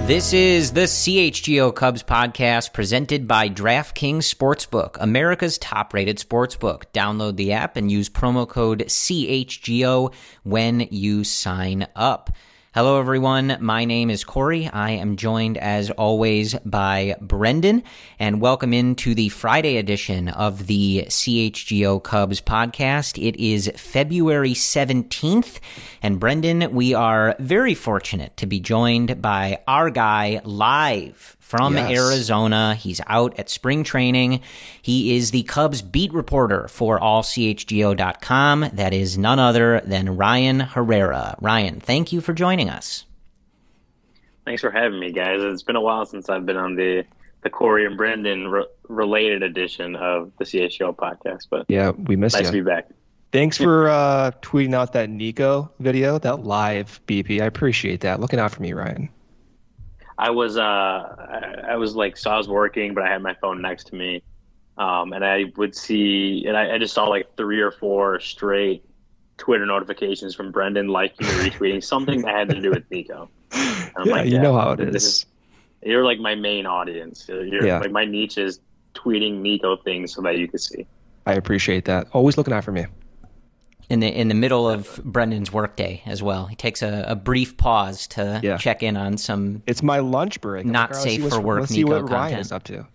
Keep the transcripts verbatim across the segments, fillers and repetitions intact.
This is the C H G O Cubs podcast presented by DraftKings Sportsbook, America's top-rated sportsbook. Download the app and use promo code C H G O when you sign up. Hello, everyone. My name is Corey. I am joined, as always, by Brendan, and welcome into the Friday edition of the C H G O Cubs podcast. It is February seventeenth, and Brendan, we are very fortunate to be joined by our guy live from yes. Arizona. He's out at spring training. He is the Cubs beat reporter for all C H G O dot com. That is none other than Ryan Herrera. Ryan, thank you for joining us. Thanks for having me, guys. It's been a while since I've been on the, the Corey and Brendan re- related edition of the C H G O podcast. But yeah, we missed nice you. to be back. Thanks for uh, tweeting out that Nico video, that live B P. I appreciate that. Looking out for me, Ryan. I was, uh, I, I was like, so I was working, but I had my phone next to me, um, and I would see, and I, I just saw like three or four straight Twitter notifications from Brendan liking or retweeting something that had to do with Nico. And I'm yeah, like, you yeah, know how it is. is. You're like my main audience. You're yeah. like my niche is tweeting Nico things so that you can see. I appreciate that. Always looking out for me. In the in the middle of Brendan's workday as well. He takes a, a brief pause to yeah. check in on some It's my lunch break. not like, safe for work let's Nico see what content. Ryan is up to.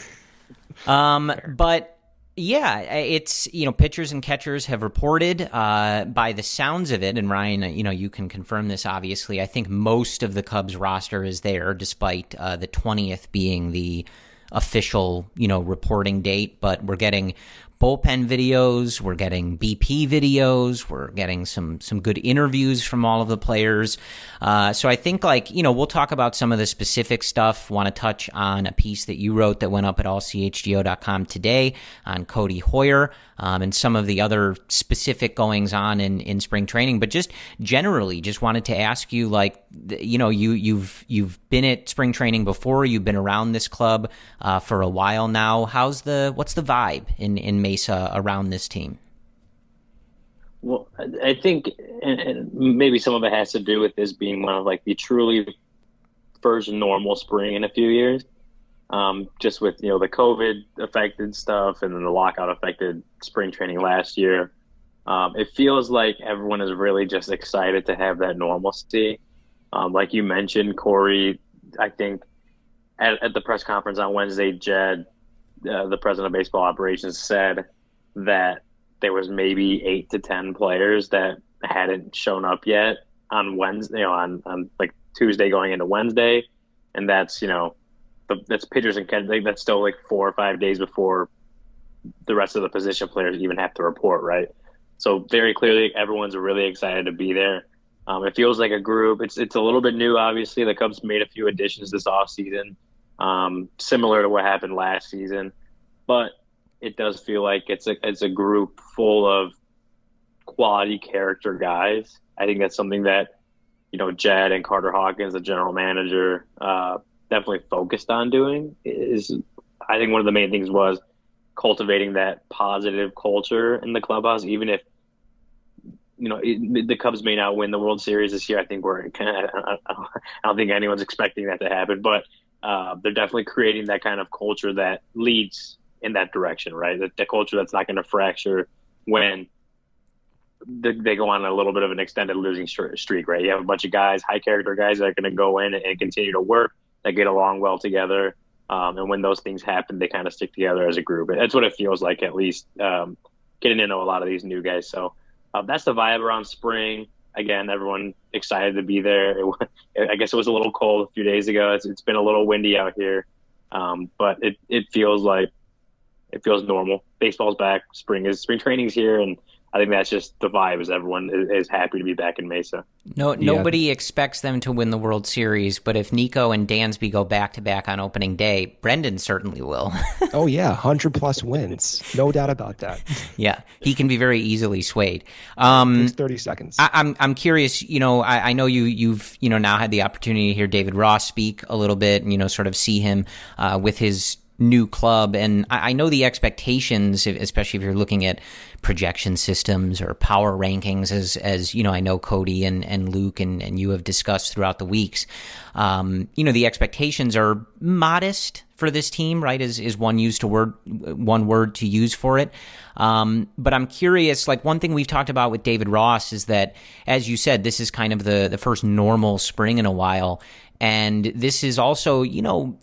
um, but yeah, it's, you know, pitchers and catchers have reported uh, by the sounds of it, and Ryan, you know, you can confirm this obviously. I think most of the Cubs roster is there, despite uh, the twentieth being the official, you know, reporting date, but we're getting bullpen videos, we're getting B P videos, we're getting some some good interviews from all of the players. Uh, so I think, like, you know, we'll talk about some of the specific stuff. Want to touch on a piece that you wrote that went up at all C H G O dot com today on Cody Hoyer um, and some of the other specific goings on in, in spring training. But just generally, just wanted to ask you, like, you know, you you've you've been at spring training before, you've been around this club uh, for a while now. How's the what's the vibe in in Mesa around this team? Well, I think, and maybe some of it has to do with this being one of like the truly first normal spring in a few years. Um, just with, you know, the COVID affected stuff and then the lockout affected spring training last year. Um, it feels like everyone is really just excited to have that normalcy. Um, like you mentioned, Corey, I think at, at the press conference on Wednesday, Jed, uh, the president of baseball operations, said that there was maybe eight to ten players that hadn't shown up yet on Wednesday, you know, on, on like Tuesday going into Wednesday. And that's, you know, the, that's pitchers and catchers. That's still like four or five days before the rest of the position players even have to report, right? So very clearly everyone's really excited to be there. Um, it feels like a group. It's it's a little bit new, obviously. The Cubs made a few additions this offseason, um, similar to what happened last season. But it does feel like it's a it's a group full of quality character guys. I think that's something that, you know, Jed and Carter Hawkins, the general manager, uh, definitely focused on doing. Is I think one of the main things was cultivating that positive culture in the clubhouse, even if, you know, it, the Cubs may not win the World Series this year. I think we're kind of, I don't think anyone's expecting that to happen, but uh, they're definitely creating that kind of culture that leads in that direction, right? The, the culture that's not going to fracture when the, they go on a little bit of an extended losing streak, right? You have a bunch of guys, high character guys that are going to go in and, and continue to work, that get along well together. Um, and when those things happen, they kind of stick together as a group. That's what it feels like, at least um, getting to know a lot of these new guys. So uh, that's the vibe around spring. Again, everyone excited to be there. It, I guess it was a little cold a few days ago. It's, it's been a little windy out here, um, but it, it feels like it feels normal. Baseball's back. Spring is spring training's here, and I think that's just the vibe. Is everyone is, is happy to be back in Mesa. No, nobody yeah. expects them to win the World Series, but if Nico and Dansby go back to back on opening day, Brendan certainly will. Oh yeah, hundred plus wins, no doubt about that. Yeah, he can be very easily swayed. Um, it takes thirty seconds. I, I'm I'm curious. You know, I, I know you you've you know now had the opportunity to hear David Ross speak a little bit, and you know sort of see him uh, with his new club, and I, I know the expectations, especially if you're looking at projection systems or power rankings, as as you know, I know Cody and, and Luke and, and you have discussed throughout the weeks. Um, you know, the expectations are modest for this team, right? Is is one used to word one word to use for it. Um, but I'm curious, like one thing we've talked about with David Ross is that, as you said, this is kind of the the first normal spring in a while. And this is also, you know,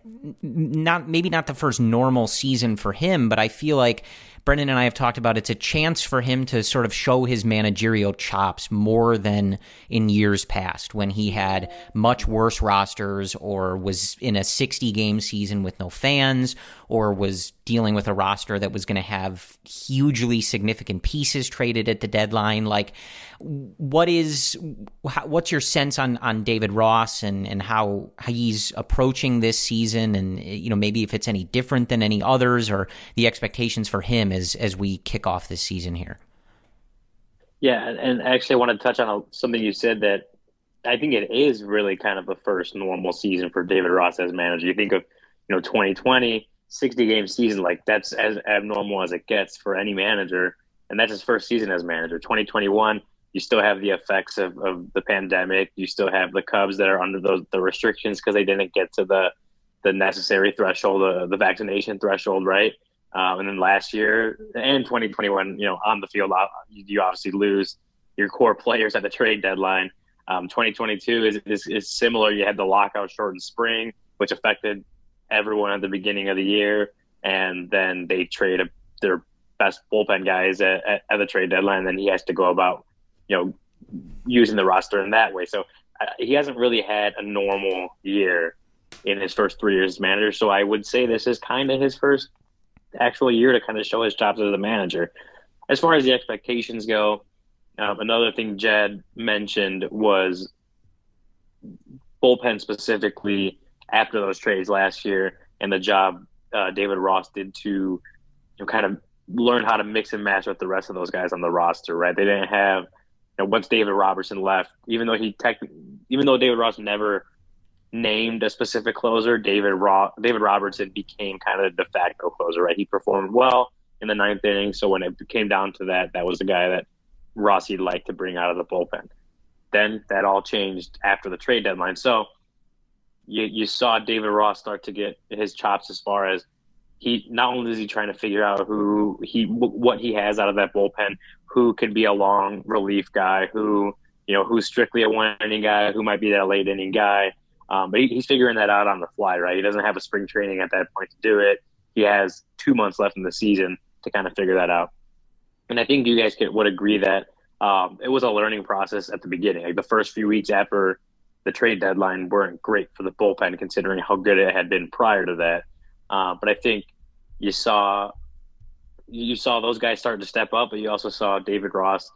not maybe not the first normal season for him, but I feel like Brendan and I have talked about it's a chance for him to sort of show his managerial chops more than in years past when he had much worse rosters or was in a sixty-game season with no fans or was dealing with a roster that was going to have hugely significant pieces traded at the deadline. Like, what is what's your sense on, on David Ross and, and how, how he's approaching this season, and you know maybe if it's any different than any others or the expectations for him as as we kick off this season here? Yeah, and actually I want to touch on something you said that I think it is really kind of the first normal season for David Ross as manager. You think of, you know, twenty twenty, sixty-game season, like that's as abnormal as it gets for any manager, and that's his first season as manager. twenty twenty-one, you still have the effects of, of the pandemic. You still have the Cubs that are under those the restrictions because they didn't get to the the necessary threshold, uh, the vaccination threshold, right? Um, and then last year and twenty twenty-one, you know, on the field, you obviously lose your core players at the trade deadline. Um, twenty twenty-two is, is is similar. You had the lockout shortened spring, which affected everyone at the beginning of the year, and then they trade a, their best bullpen guys at, at, at the trade deadline. And then he has to go about, you know, using the roster in that way. So uh, he hasn't really had a normal year in his first three years as manager. So I would say this is kind of his first actual year to kind of show his chops as a manager. As far as the expectations go, um, another thing Jed mentioned was bullpen specifically after those trades last year and the job uh, David Ross did to, you know, kind of learn how to mix and match with the rest of those guys on the roster, right? They didn't have, you know, once David Robertson left, even though he tech, even though David Ross never named a specific closer, David Ro- David Robertson became kind of the de facto closer, right? He performed well in the ninth inning, so when it came down to that, that was the guy that Rossi'd like to bring out of the bullpen. Then that all changed after the trade deadline. So you you saw David Ross start to get his chops as far as he not only is he trying to figure out who he what he has out of that bullpen, who could be a long relief guy, who you know who's strictly a one inning guy, who might be that late inning guy. Um, but he, he's figuring that out on the fly, right? He doesn't have a spring training at that point to do it. He has two months left in the season to kind of figure that out. And I think you guys could, would agree that um, it was a learning process at the beginning. Like the first few weeks after the trade deadline weren't great for the bullpen, considering how good it had been prior to that. Uh, but I think you saw you saw those guys start to step up, but you also saw David Ross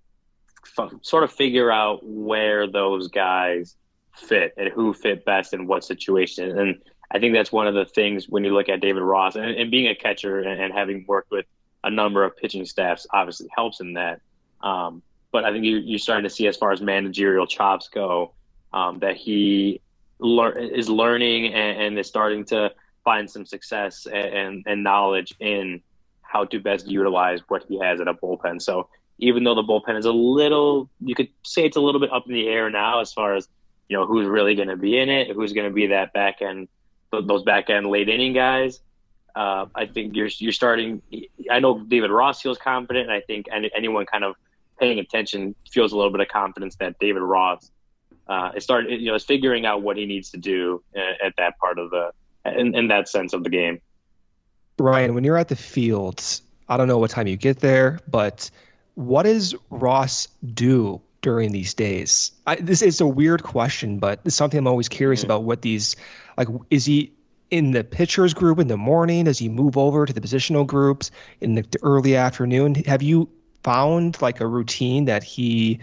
f- sort of figure out where those guys fit and who fit best in what situation. And I think that's one of the things when you look at David Ross and, and being a catcher and, and having worked with a number of pitching staffs obviously helps in that. Um, but I think you, you're starting to see as far as managerial chops go, um, that he lear- is learning and, and is starting to find some success and, and, and knowledge in how to best utilize what he has at a bullpen. So even though the bullpen is a little, you could say it's a little bit up in the air now as far as, you know, who's really going to be in it, who's going to be that back end, those back end late inning guys. Uh, I think you're you're starting. I know David Ross feels confident, and I think any, anyone kind of paying attention feels a little bit of confidence that David Ross uh, is starting, you know, is figuring out what he needs to do at, at that part of the, in, in that sense of the game. Ryan, when you're at the field, I don't know what time you get there, but what does Ross do during these days? I, this is a weird question, but it's something I'm always curious mm-hmm. about. What these, like, is he in the pitchers group in the morning? Does he move over to the positional groups in the, the early afternoon? Have you found like a routine that he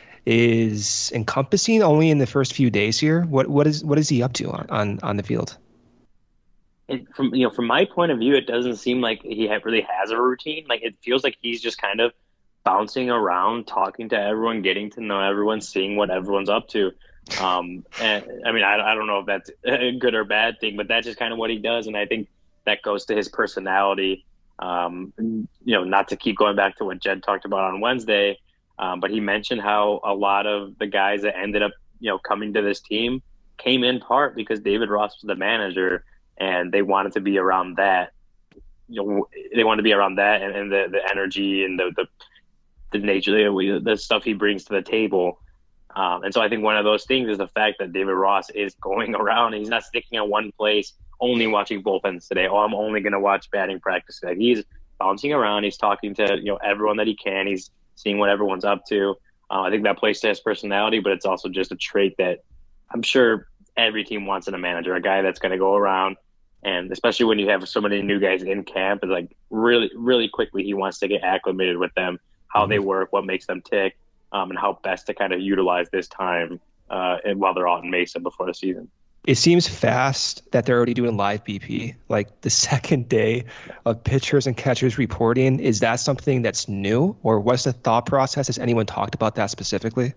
is encompassing only in the first few days here? What what is what is he up to on on, on the field? It, from you know, from my point of view, it doesn't seem like he ha- really has a routine. Like it feels like he's just kind of bouncing around, talking to everyone, getting to know everyone, seeing what everyone's up to. Um, and I mean, I, I don't know if that's a good or bad thing, but that's just kind of what he does. And I think that goes to his personality. Um, you know, not to keep going back to what Jed talked about on Wednesday, um, but he mentioned how a lot of the guys that ended up, you know, coming to this team came in part because David Ross was the manager, and they wanted to be around that. You know, they wanted to be around that and, and the, the energy and the, the, the nature, the, the stuff he brings to the table. Um, and so I think one of those things is the fact that David Ross is going around and he's not sticking in one place, only watching bullpens today. Oh, I'm only going to watch batting practice today. He's bouncing around. He's talking to, you know, everyone that he can. He's seeing what everyone's up to. Uh, I think that plays to his personality, but it's also just a trait that I'm sure every team wants in a manager, a guy that's going to go around. And especially when you have so many new guys in camp, it's like really, really quickly he wants to get acclimated with them, how mm-hmm. they work, what makes them tick, um, and how best to kind of utilize this time uh, and while they're out in Mesa before the season. It seems fast that they're already doing live B P, like the second day of pitchers and catchers reporting. Is that something that's new, or what's the thought process? Has anyone talked about that specifically?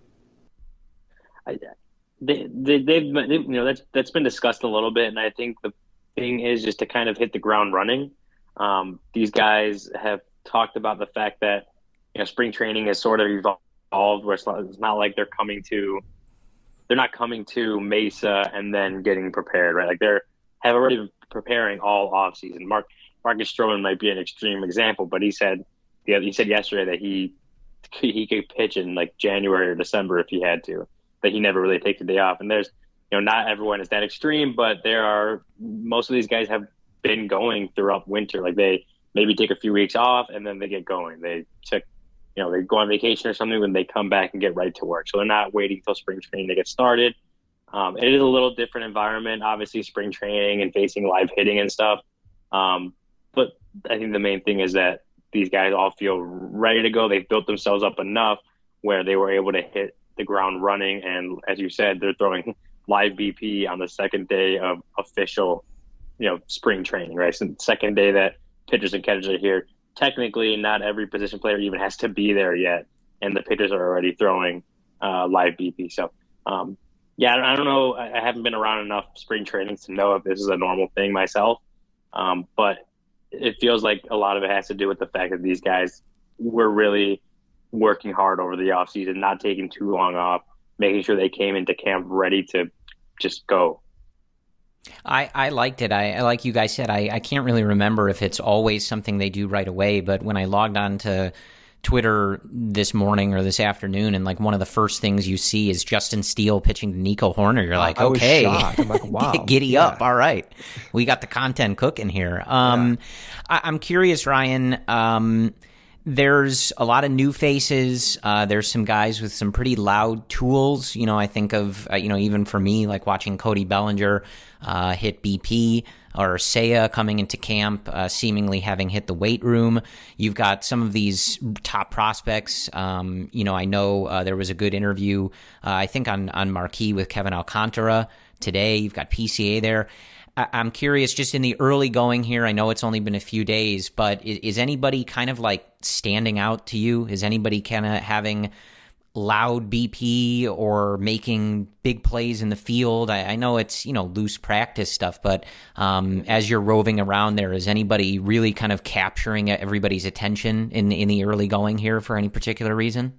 I, they, they, they've, they, you know, that's that's been discussed a little bit, and I think the thing is just to kind of hit the ground running. Um, these guys have talked about the fact that, you know, spring training has sort of evolved, where it's not, it's not like they're coming to, they're not coming to Mesa and then getting prepared, right? Like they're have already been preparing all off season. Mark Marcus Stroman might be an extreme example, but he said, yeah, he said yesterday that he he could pitch in like January or December if he had to, that he never really takes a day off. And there's, you know, not everyone is that extreme, but there are, most of these guys have been going throughout winter. Like they maybe take a few weeks off and then they get going. They took, you know, they go on vacation or something when they come back and get right to work. So they're not waiting until spring training to get started. Um, it is a little different environment, obviously spring training and facing live hitting and stuff. Um, but I think the main thing is that these guys all feel ready to go. They've built themselves up enough where they were able to hit the ground running. And as you said, they're throwing live B P on the second day of official, you know, spring training, right? So second day that pitchers and catchers are here. Technically, not every position player even has to be there yet, and the pitchers are already throwing uh, live B P. So, um, yeah, I don't know. I haven't been around enough spring trainings to know if this is a normal thing myself, um, but it feels like a lot of it has to do with the fact that these guys were really working hard over the offseason, not taking too long off, making sure they came into camp ready to just go. I, I liked it. I, like you guys said, I, I can't really remember if it's always something they do right away, but when I logged on to Twitter this morning or this afternoon, and like one of the first things you see is Justin Steele pitching to Nico Horner, you're like, I was okay, shocked. I'm like, wow. Giddy yeah. up. All right. We got the content cooking here. Um, yeah. I, I'm curious, Ryan, um, there's a lot of new faces. Uh, there's some guys with some pretty loud tools. You know, I think of, uh, you know, even for me, like watching Cody Bellinger uh, hit B P, or Seiya coming into camp, uh, seemingly having hit the weight room. You've got some of these top prospects. Um, you know, I know uh, there was a good interview, uh, I think on, on Marquee with Kevin Alcantara today. You've got P C A there. I'm curious, just in the early going here, I know it's only been a few days, but is, is anybody kind of like standing out to you? Is anybody kind of having loud B P or making big plays in the field? I, I know it's, you know, loose practice stuff, but um, as you're roving around there, is anybody really kind of capturing everybody's attention in, in the early going here for any particular reason?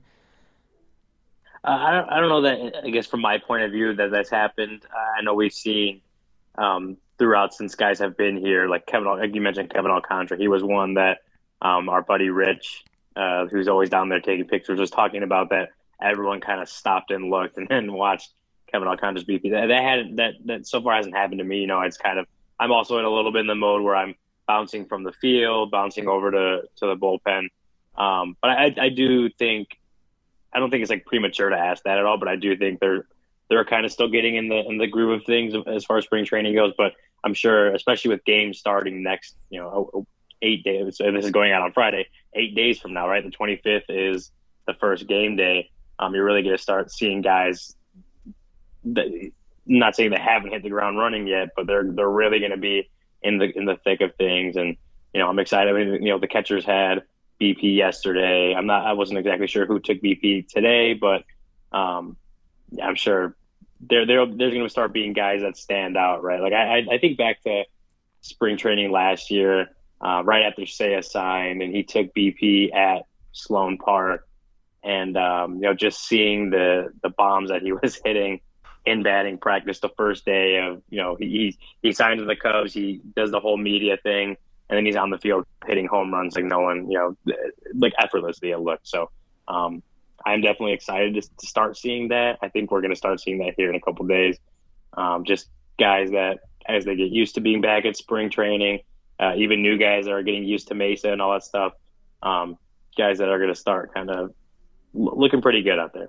Uh, I, don't, I don't know that, I guess from my point of view, that that's happened. Uh, I know we've seen um, throughout since guys have been here, like Kevin, like you mentioned Kevin Alcantara, he was one that um, our buddy Rich, uh, who's always down there taking pictures, was talking about, that everyone kind of stopped and looked and then watched Kevin Alcantara's B P. That, that had that that so far hasn't happened to me. You know, it's kind of, I'm also in a little bit in the mode where I'm bouncing from the field, bouncing over to to the bullpen. Um, but I, I do think, I don't think it's like premature to ask that at all. But I do think they're they're kind of still getting in the in the groove of things as far as spring training goes. But I'm sure, especially with games starting next, you know, eight days. So this is going out on Friday, eight days from now, right? The twenty-fifth is the first game day. Um, you're really going to start seeing guys that, not saying they haven't hit the ground running yet, but they're they're really going to be in the in the thick of things. And you know, I'm excited. I mean, you know, the catchers had B P yesterday. I'm not. I wasn't exactly sure who took B P today, but um, yeah, I'm sure there there there's going to start being guys that stand out, right? Like I I think back to spring training last year. uh, right after Seiya signed, and he took B P at Sloan Park. And, um, you know, just seeing the, the bombs that he was hitting in batting practice the first day of, you know, he, he signed to the Cubs, he does the whole media thing, and then he's on the field hitting home runs like no one, you know, like effortlessly it looked. So um, I'm definitely excited to, to start seeing that. I think we're going to start seeing that here in a couple of days. Um, just guys that, as they get used to being back at spring training, uh, even new guys that are getting used to Mesa and all that stuff, um, guys that are going to start kind of looking pretty good out there.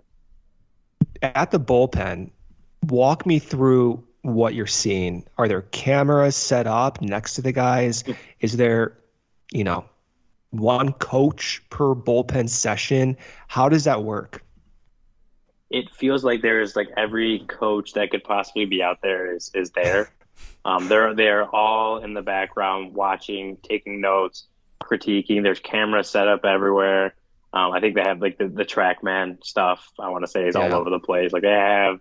At the bullpen, walk me through what you're seeing. Are there cameras set up next to the guys? Is there, you know, one coach per bullpen session? How does that work? It feels like there's like every coach that could possibly be out there is, is there. Um, they're, they're all in the background watching, taking notes, critiquing. There's cameras set up everywhere. Um, I think they have like the, the TrackMan stuff, I want to say, is yeah. all over the place. Like they have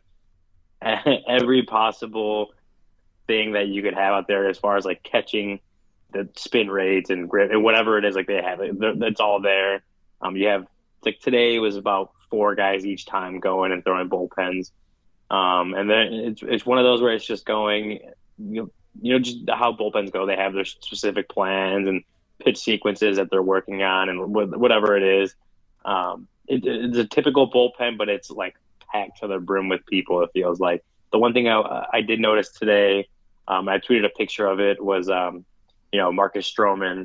every possible thing that you could have out there as far as like catching the spin rates and grip and whatever it is, like they have it. It's all there. Um, you have like today was about four guys each time going and throwing bullpens. Um, and then it's, it's one of those where it's just going, you know, you know, just how bullpens go. They have their specific plans and pitch sequences that they're working on and whatever it is. Um, it, it's a typical bullpen, but it's like packed to the brim with people. It feels like. The one thing I, I did notice today, um, I tweeted a picture of it, was um, you know, Marcus Stroman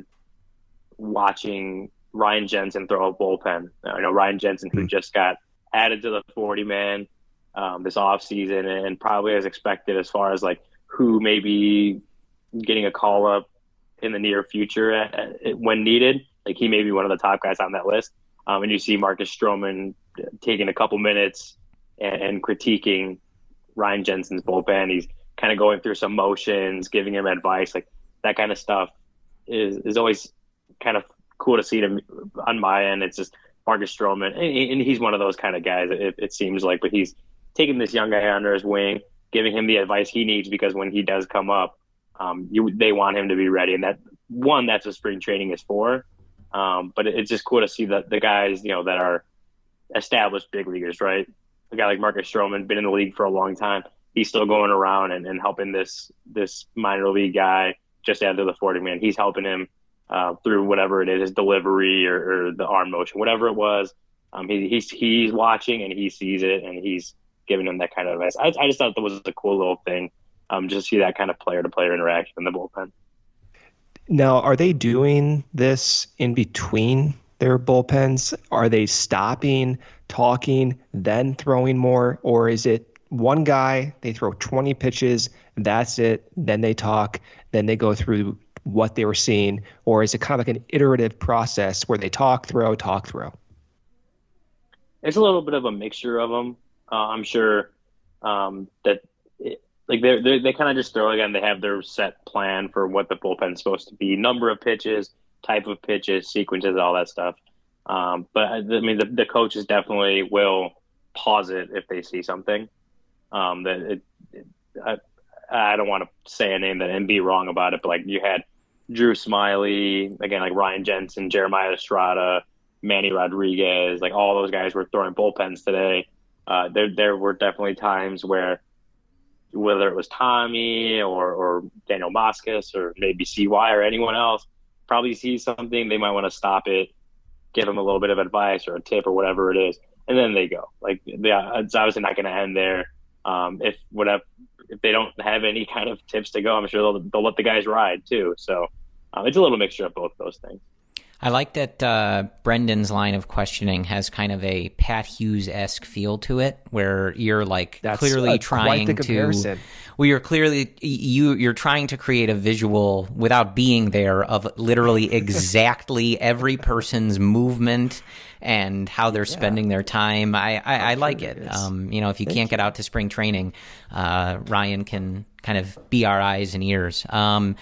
watching Ryan Jensen throw a bullpen. I know Ryan Jensen, who just got added to the forty man um, this offseason, and probably as expected as far as like who may be getting a call up in the near future at, at, when needed. Like he may be one of the top guys on that list. Um, and you see Marcus Stroman taking a couple minutes and, and critiquing Ryan Jensen's bullpen. He's kind of going through some motions, giving him advice. Like that kind of stuff is, is always kind of cool to see to, on my end. It's just Marcus Stroman, and, and he's one of those kind of guys, it, it seems like, but he's taking this young guy under his wing, giving him the advice he needs, because when he does come up, um, you, they want him to be ready. And that one, that's what spring training is for. Um, but it, it's just cool to see that the guys, you know, that are established big leaguers, right? A guy like Marcus Stroman, been in the league for a long time. He's still going around and, and helping this, this minor league guy just after the forty man. He's helping him uh, through whatever it is, his delivery or, or the arm motion, whatever it was. Um, he, he's, he's watching and he sees it and he's giving him that kind of advice. I, I just thought that was a cool little thing. Um, just see that kind of player to player interaction in the bullpen. Now, are they doing this in between their bullpens? Are they stopping, talking, then throwing more? Or is it one guy, they throw twenty pitches, that's it, then they talk, then they go through what they were seeing? Or is it kind of like an iterative process where they talk, throw, talk, throw? It's a little bit of a mixture of them. Uh, I'm sure um, that it, like they're, they're, they kind of just throw again. They have their set plan for what the bullpen's supposed to be, number of pitches, type of pitches, sequences, all that stuff. Um, but I mean, the, the coaches definitely will pause it if they see something. Um, that it, it, I, I don't want to say a name that and be wrong about it, but like you had Drew Smiley, again, like Ryan Jensen, Jeremiah Estrada, Manny Rodriguez, like all those guys were throwing bullpens today. Uh, there, there were definitely times where, whether it was Tommy or, or Daniel Moscas or maybe C Y or anyone else, probably sees something, they might want to stop it, give them a little bit of advice or a tip or whatever it is, and then they go. Like, yeah, it's obviously not going to end there. Um, if whatever, if they don't have any kind of tips to go, I'm sure they'll, they'll let the guys ride too. So um, it's a little mixture of both those things. I like that uh, Brendan's line of questioning has kind of a Pat Hughes-esque feel to it, where you're like That's clearly a, trying quite the to. comparison. Well, you're clearly you you're trying to create a visual without being there of literally exactly every person's movement and how they're spending yeah. their time. I I, I like it. it um, you know, if you Thank can't you. get out to spring training, uh, Ryan can kind of be our eyes and ears. Um,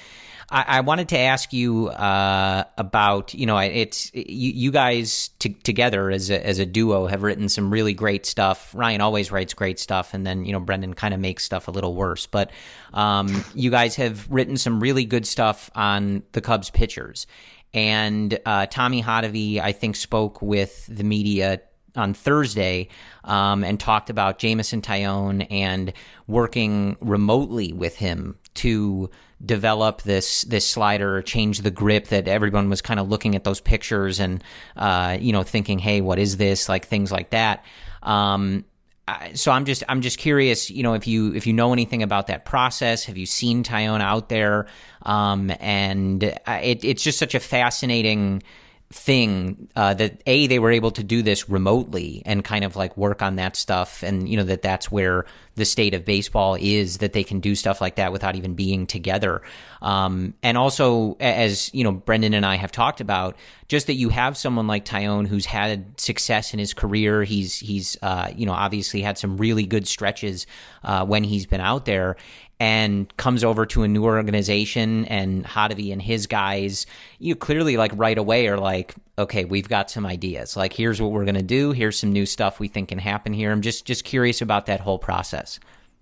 I, I wanted to ask you uh, about, you know, it's you, you guys t- together as a, as a duo have written some really great stuff. Ryan always writes great stuff, and then, you know, Brendan kind of makes stuff a little worse. But um, you guys have written some really good stuff on the Cubs pitchers. And uh, Tommy Hotovy, I think, spoke with the media on Thursday um, and talked about Jameson Taillon and working remotely with him to develop this this slider, change the grip, that everyone was kind of looking at those pictures and uh, you know, thinking, hey, what is this? Like things like that. Um, so I'm just I'm just curious, you know, if you if you know anything about that process. Have you seen Taillon out there? Um, and it, it's just such a fascinating thing uh, that a they were able to do this remotely and kind of like work on that stuff, and you know that that's where the state of baseball is, that they can do stuff like that without even being together. Um, and also, as you know, Brendan and I have talked about, just that you have someone like Taillon who's had success in his career. He's he's uh, you know obviously had some really good stretches uh, when he's been out there, and comes over to a new organization, and Hotovy and his guys, you clearly like right away are like, okay, we've got some ideas. Like, here's what we're going to do. Here's some new stuff we think can happen here. I'm just, just curious about that whole process.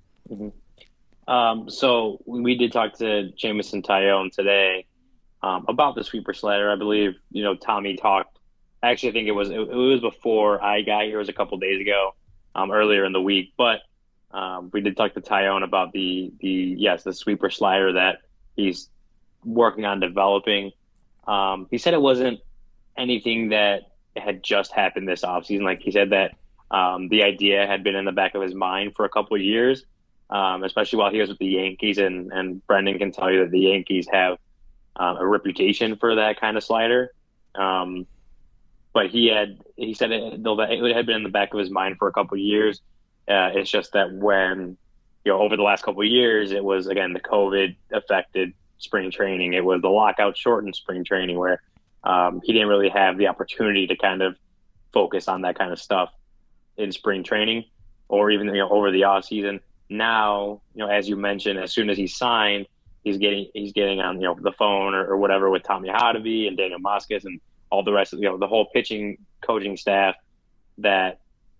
Mm-hmm. Um, so we did talk to Jameson Taillon today um, about the sweeper slider. I believe, you know, Tommy talked, actually, I think it was, it, it was before I got here. It was a couple days ago, um, earlier in the week, but Um, we did talk to Taillon about the, the yes, the sweeper slider that he's working on developing. Um, he said it wasn't anything that had just happened this offseason. Like he said that um, the idea had been in the back of his mind for a couple of years, um, especially while he was with the Yankees. And, and Brendan can tell you that the Yankees have uh, a reputation for that kind of slider. Um, but he had he said it, it had been in the back of his mind for a couple of years. Uh, it's just that when, you know, over the last couple of years, it was, again, the COVID affected spring training. It was the lockout shortened spring training where um, he didn't really have the opportunity to kind of focus on that kind of stuff in spring training or even, you know, over the off season. Now, you know, as you mentioned, as soon as he signed, he's getting, he's getting on, you know, the phone or, or whatever with Tommy Hotovy and Daniel Moscas and all the rest of, you know, the whole pitching coaching staff that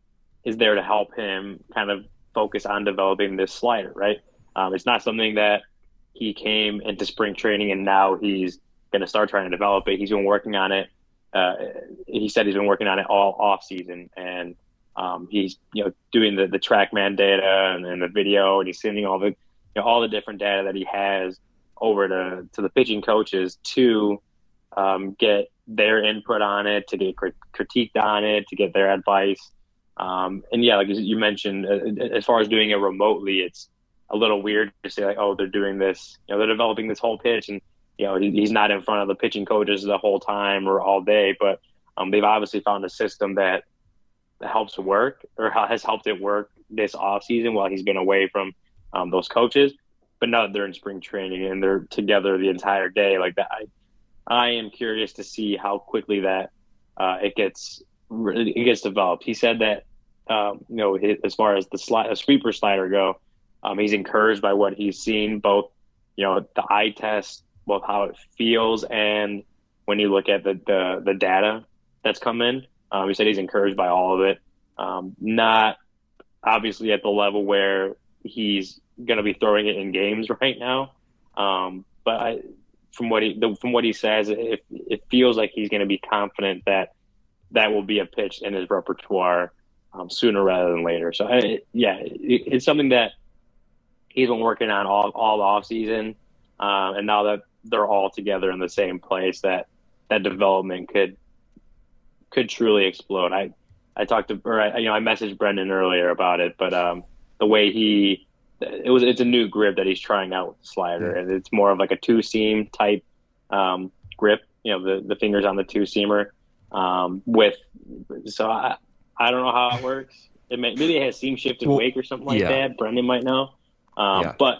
is there to help him kind of focus on developing this slider, right? Um, it's not something that he came into spring training and now he's going to start trying to develop it. He's been working on it. Uh, he said he's been working on it all off season, and um, he's, you know, doing the, the TrackMan data and, and the video, and he's sending all the, you know, all the different data that he has over to, to the pitching coaches to um, get their input on it, to get crit- critiqued on it, to get their advice. Um, and yeah, like you mentioned, uh, as far as doing it remotely, it's a little weird to say like, oh, they're doing this, you know, they're developing this whole pitch, and you know, he, he's not in front of the pitching coaches the whole time or all day. But um, they've obviously found a system that, that helps work or has helped it work this off season while he's been away from um, those coaches. But now that they're in spring training and they're together the entire day, like that, I, I am curious to see how quickly that uh, it gets. It gets developed. He said that, um, you know, as far as the slide, a sweeper slider go, um, he's encouraged by what he's seen, both, you know, the eye test, both how it feels, and when you look at the the, the data that's come in. Um, he said he's encouraged by all of it. Um, not obviously at the level where he's going to be throwing it in games right now, um, but I, from what he the, from what he says, it, it feels like he's going to be confident that that will be a pitch in his repertoire um, sooner rather than later. So, I, yeah, it, it's something that he's been working on all, all off season. Uh, and now that they're all together in the same place, that, that development could, could truly explode. I, I talked to, or I, you know, I messaged Brendan earlier about it, but um, the way he, it was, it's a new grip that he's trying out with the slider, and it's more of like a two seam type um, grip, you know, the, the fingers on the two seamer. Um, with, so I, I don't know how it works. It may, maybe it has seam shifted well, wake or something like yeah. that. Brendan might know. Um, yeah. But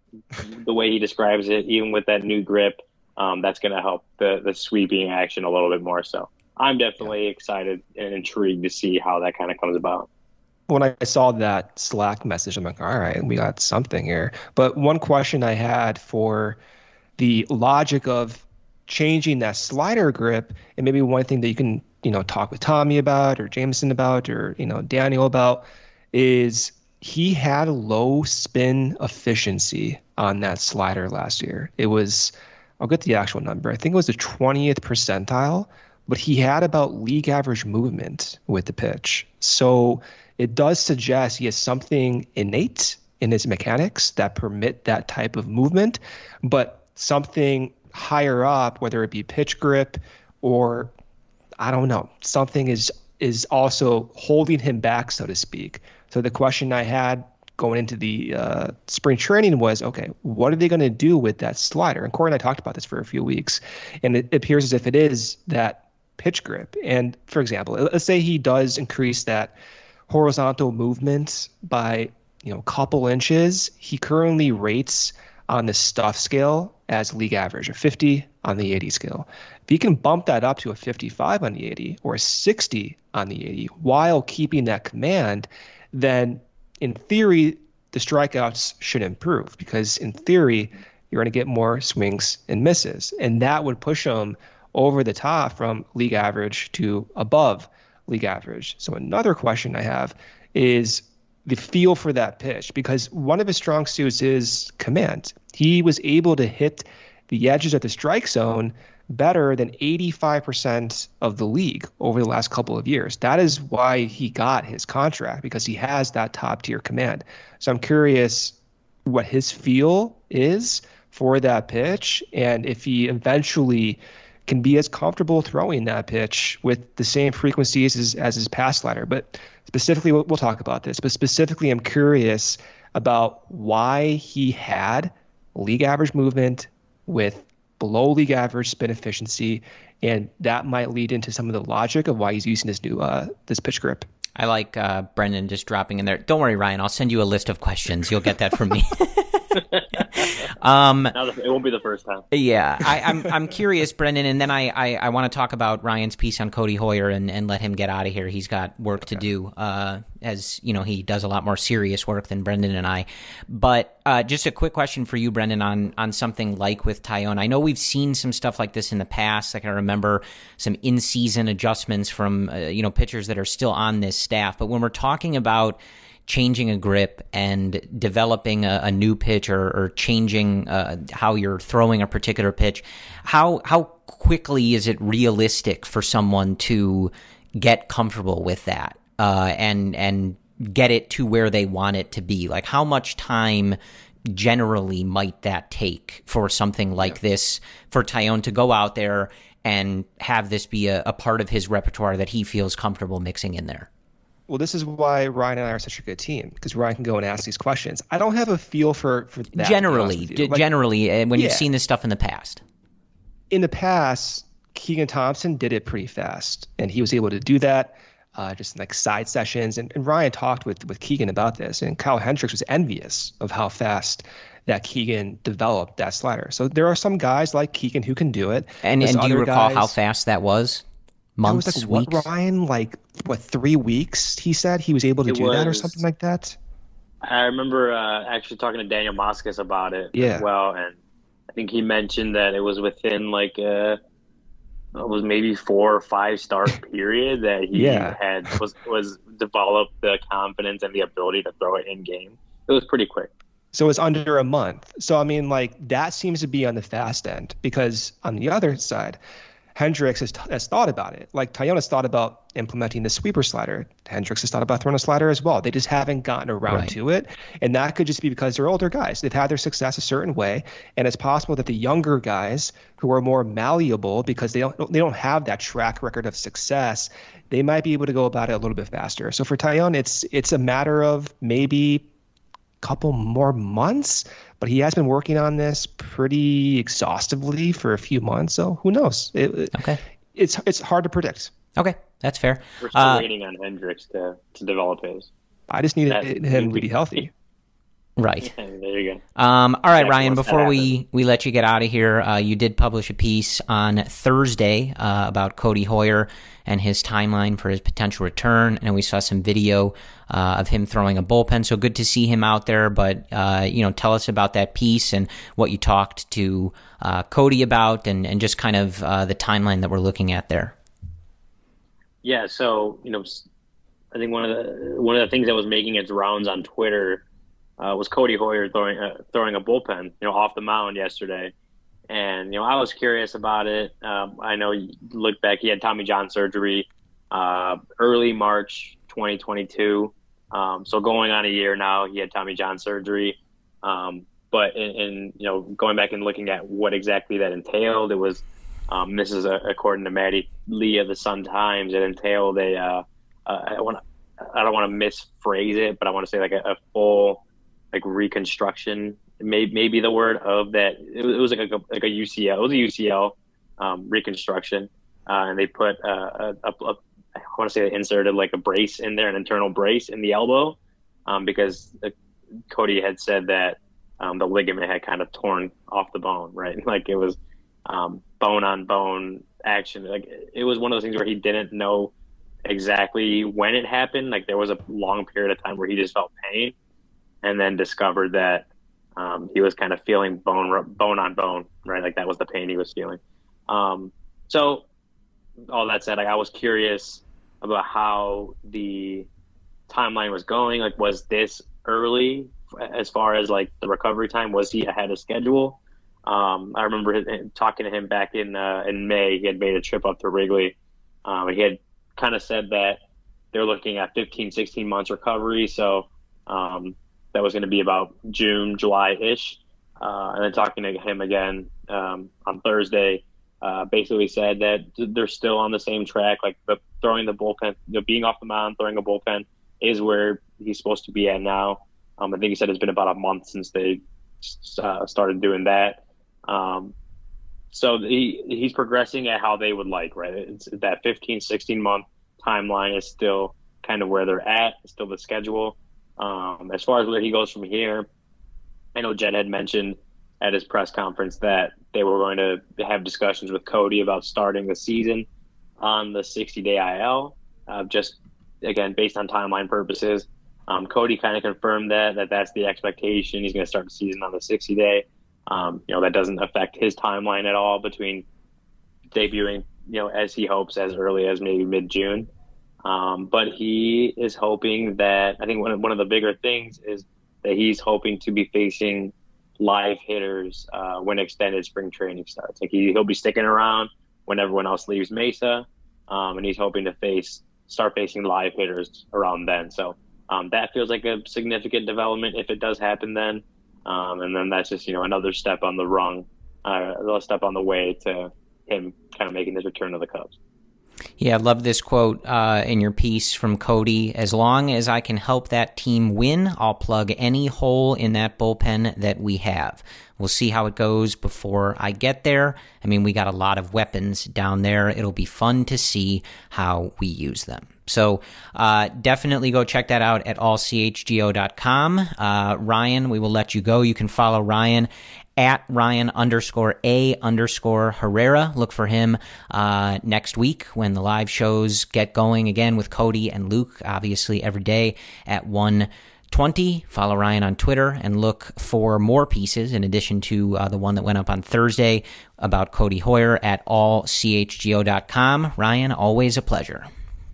the way he describes it, even with that new grip, um, that's going to help the, the sweeping action a little bit more. So I'm definitely yeah. excited and intrigued to see how that kind of comes about. When I saw that Slack message, I'm like, all right, we got something here. But one question I had for the logic of changing that slider grip, and maybe one thing that you can, you know, talk with Tommy about or Jameson about or, you know, Daniel about is he had low spin efficiency on that slider last year. It was, I'll get the actual number. I think it was the twentieth percentile, but he had about league average movement with the pitch. So it does suggest he has something innate in his mechanics that permit that type of movement, but something higher up, whether it be pitch grip or I don't know, something is is also holding him back, so to speak. So the question I had going into the uh, spring training was, okay, what are they going to do with that slider? And Corey and I talked about this for a few weeks, and it appears as if it is that pitch grip. And for example, let's say he does increase that horizontal movement by, you know, a couple inches. He currently rates on the Stuff scale as league average, a fifty on the eighty scale. If he can bump that up to a fifty-five on the eighty or a sixty on the eighty while keeping that command, then in theory, the strikeouts should improve because in theory, you're going to get more swings and misses. And that would push him over the top from league average to above league average. So another question I have is the feel for that pitch, because one of his strong suits is command. He was able to hit the edges of the strike zone better than eighty-five percent of the league over the last couple of years. That is why he got his contract, because he has that top tier command. So I'm curious what his feel is for that pitch, and if he eventually can be as comfortable throwing that pitch with the same frequencies as, as his past slider. But specifically, we'll, we'll talk about this, but specifically I'm curious about why he had league average movement with below league average spin efficiency, and that might lead into some of the logic of why he's using this new uh, this pitch grip. I like uh, Brendan just dropping in there. Don't worry, Ryan, I'll send you a list of questions. You'll get that from me. um, it won't be the first time. Yeah, I, I'm I'm curious, Brendan, and then I, I, I want to talk about Ryan's piece on Cody Hoyer and, and let him get out of here. He's got work okay. to do, uh, as you know, he does a lot more serious work than Brendan and I. But uh, just a quick question for you, Brendan, on on something like with Taillon. I know we've seen some stuff like this in the past. Like I remember some in-season adjustments from uh, you know pitchers that are still on this staff. But when we're talking about changing a grip and developing a, a new pitch or, or changing uh, how you're throwing a particular pitch, how how quickly is it realistic for someone to get comfortable with that uh, and and get it to where they want it to be? Like how much time generally might that take for something like yeah. this, for Taillon to go out there and have this be a, a part of his repertoire that he feels comfortable mixing in there? Well, this is why Ryan and I are such a good team, because Ryan can go and ask these questions. I don't have a feel for, for that. Generally, d- like, generally, uh, when yeah. you've seen this stuff in the past. In the past, Keegan Thompson did it pretty fast, and he was able to do that uh, just in like side sessions. And, and Ryan talked with, with Keegan about this, and Kyle Hendricks was envious of how fast that Keegan developed that slider. So there are some guys like Keegan who can do it. And, and do you recall guys, how fast that was? Months, it was like, weeks? What, Ryan, like, what, three weeks, he said he was able to it do was, that or something like that? I remember uh, actually talking to Daniel Moscas about it yeah. as well, and I think he mentioned that it was within, like, a, it was maybe four or five start period that he yeah. had was, was developed the confidence and the ability to throw it in-game. It was pretty quick. So it's under a month. So, I mean, like, that seems to be on the fast end, because on the other side, Hendricks has, has thought about it. Like Taillon has thought about implementing the sweeper slider. Hendricks has thought about throwing a slider as well. They just haven't gotten around right. to it. And that could just be because they're older guys. They've had their success a certain way. And it's possible that the younger guys who are more malleable, because they don't they don't have that track record of success, they might be able to go about it a little bit faster. So for Taillon, it's it's a matter of maybe couple more months, but he has been working on this pretty exhaustively for a few months. So who knows? It, okay, it's it's hard to predict. Okay, that's fair. We're still uh, waiting on Hendricks to, to develop his. I just needed that, him to be healthy. Right. Yeah, there you go. Um, all right, Exactly Ryan, once that before we, happens. we let you get out of here, uh, you did publish a piece on Thursday uh, about Cody Hoyer and his timeline for his potential return. And we saw some video uh, of him throwing a bullpen. So good to see him out there. But, uh, you know, tell us about that piece and what you talked to uh, Cody about and, and just kind of uh, the timeline that we're looking at there. Yeah, so, you know, I think one of the one of the things that was making its rounds on Twitter uh, was Cody Hoyer throwing uh, throwing a bullpen, you know, off the mound yesterday. And, you know, I was curious about it. Um, I know you look back, he had Tommy John surgery uh, early March twenty twenty-two. Um, so going on a year now, he had Tommy John surgery. Um, but in, in, you know, going back and looking at what exactly that entailed, it was, um, this is a, according to Maddie Lee of the Sun Times, it entailed a, uh, uh, I want I don't want to misphrase it, but I want to say like a, a full like reconstruction, may, maybe the word of that. It was, it was like a like a U C L. It was a U C L um, reconstruction, uh, and they put uh, a, a, a I want to say they inserted like a brace in there, an internal brace in the elbow, um, because uh, Cody had said that um, the ligament had kind of torn off the bone, right? Like it was um, bone on bone action. Like it was one of those things where he didn't know exactly when it happened. Like there was a long period of time where he just felt pain, and then discovered that um, he was kind of feeling bone bone on bone, right? Like that was the pain he was feeling. Um, so all that said, like, I was curious about how the timeline was going. Like, was this early as far as like the recovery time? Was he ahead of schedule? Um, I remember him, talking to him back in uh, in May. He had made a trip up to Wrigley. Um, he had kind of said that they're looking at fifteen, sixteen months recovery. So um, that was going to be about June, July-ish. Uh, and then talking to him again um, on Thursday, uh, basically said that they're still on the same track. Like the throwing the bullpen, you know, being off the mound, throwing a bullpen is where he's supposed to be at now. Um, I think he said it's been about a month since they uh, started doing that. Um, So he he's progressing at how they would like, right? It's that fifteen, sixteen month timeline is still kind of where they're at, still the schedule. Um, as far as where he goes from here, I know Jed had mentioned at his press conference that they were going to have discussions with Cody about starting the season on the sixty-day I L, uh, just, again, based on timeline purposes. Um, Cody kind of confirmed that, that that's the expectation. He's going to start the season on the sixty-day. Um, you know, that doesn't affect his timeline at all between debuting, you know, as he hopes as early as maybe mid-June. Um, but he is hoping that, I think one of, one of the bigger things is that he's hoping to be facing live hitters uh, when extended spring training starts. Like he, he'll be sticking around when everyone else leaves Mesa, um, and he's hoping to face start facing live hitters around then. So um, that feels like a significant development if it does happen then. Um, and then that's just, you know, another step on the rung, uh, another step on the way to him kind of making his return to the Cubs. Yeah, I love this quote uh, in your piece from Cody. As long as I can help that team win, I'll plug any hole in that bullpen that we have. We'll see how it goes before I get there. I mean, we got a lot of weapons down there. It'll be fun to see how we use them. So uh, definitely go check that out at all c h g o dot com. Uh, Ryan, we will let you go. You can follow Ryan at Ryan underscore A underscore Herrera. Look for him uh, next week when the live shows get going again with Cody and Luke, obviously every day at one twenty. Follow Ryan on Twitter and look for more pieces in addition to uh, the one that went up on Thursday about Cody Hoyer at all c h g o dot com. Ryan, always a pleasure.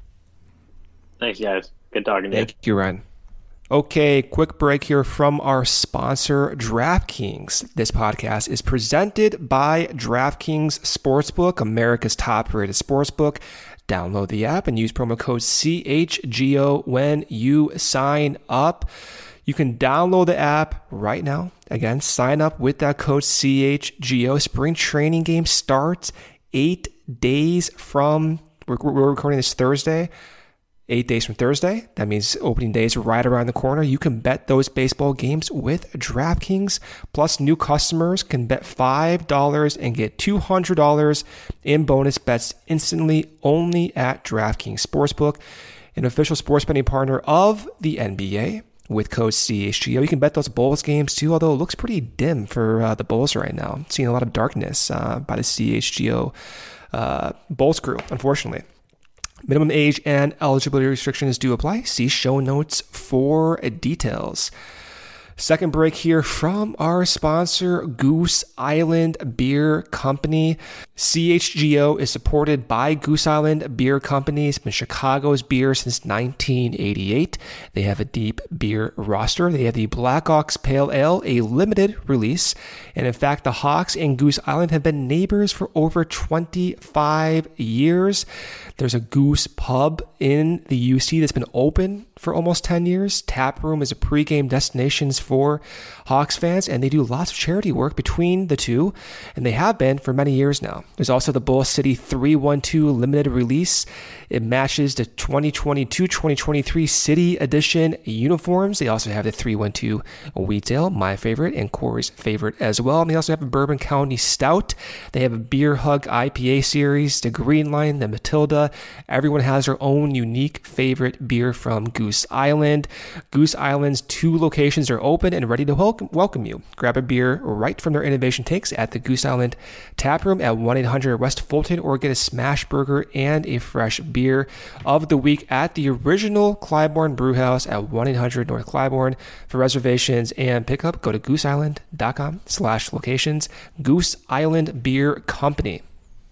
Thanks, guys. Good talking to you. Thank you, Ryan. Okay, quick break here from our sponsor, DraftKings. This podcast is presented by DraftKings Sportsbook, America's top-rated sportsbook. Download the app and use promo code C H G O when you sign up. You can download the app right now. Again, sign up with that code C H G O. Spring training game starts eight days from, we're, we're recording this Thursday, Eight days from Thursday. That means opening day is right around the corner. You can bet those baseball games with DraftKings. Plus, new customers can bet five dollars and get two hundred dollars in bonus bets instantly only at DraftKings Sportsbook, an official sports betting partner of the N B A. with code C H G O. You can bet those Bulls games too, although it looks pretty dim for uh, the Bulls right now. Seeing a lot of darkness uh, by the C H G O uh, Bulls crew, unfortunately. Minimum age and eligibility restrictions do apply. See show notes for details. Second break here from our sponsor, Goose Island Beer Company. C H G O is supported by Goose Island Beer Company. It's been Chicago's beer since nineteen eighty-eight. They have a deep beer roster. They have the Blackhawks Pale Ale, a limited release. And in fact, the Hawks and Goose Island have been neighbors for over twenty-five years. There's a Goose Pub in the U C that's been open for almost ten years. Tap Room is a pregame destination for Hawks fans, and they do lots of charity work between the two, and they have been for many years now. There's also the Bull City three one two limited release. It matches the twenty twenty-two twenty twenty-three City Edition uniforms. They also have the three one two Wheat Ale, my favorite, and Corey's favorite as well. And they also have a Bourbon County Stout. They have a Beer Hug I P A series, the Green Line, the Matilda. Everyone has their own unique favorite beer from Goose Island. Goose Island's two locations are open and ready to welcome, welcome you. Grab a beer right from their innovation takes at the Goose Island Tap Room at one eight hundred West Fulton, or get a smash burger and a fresh beer of the week at the original Clybourne Brewhouse at one eight hundred North Clybourne. For reservations and pickup, go to gooseisland.com slash locations. Goose Island Beer Company.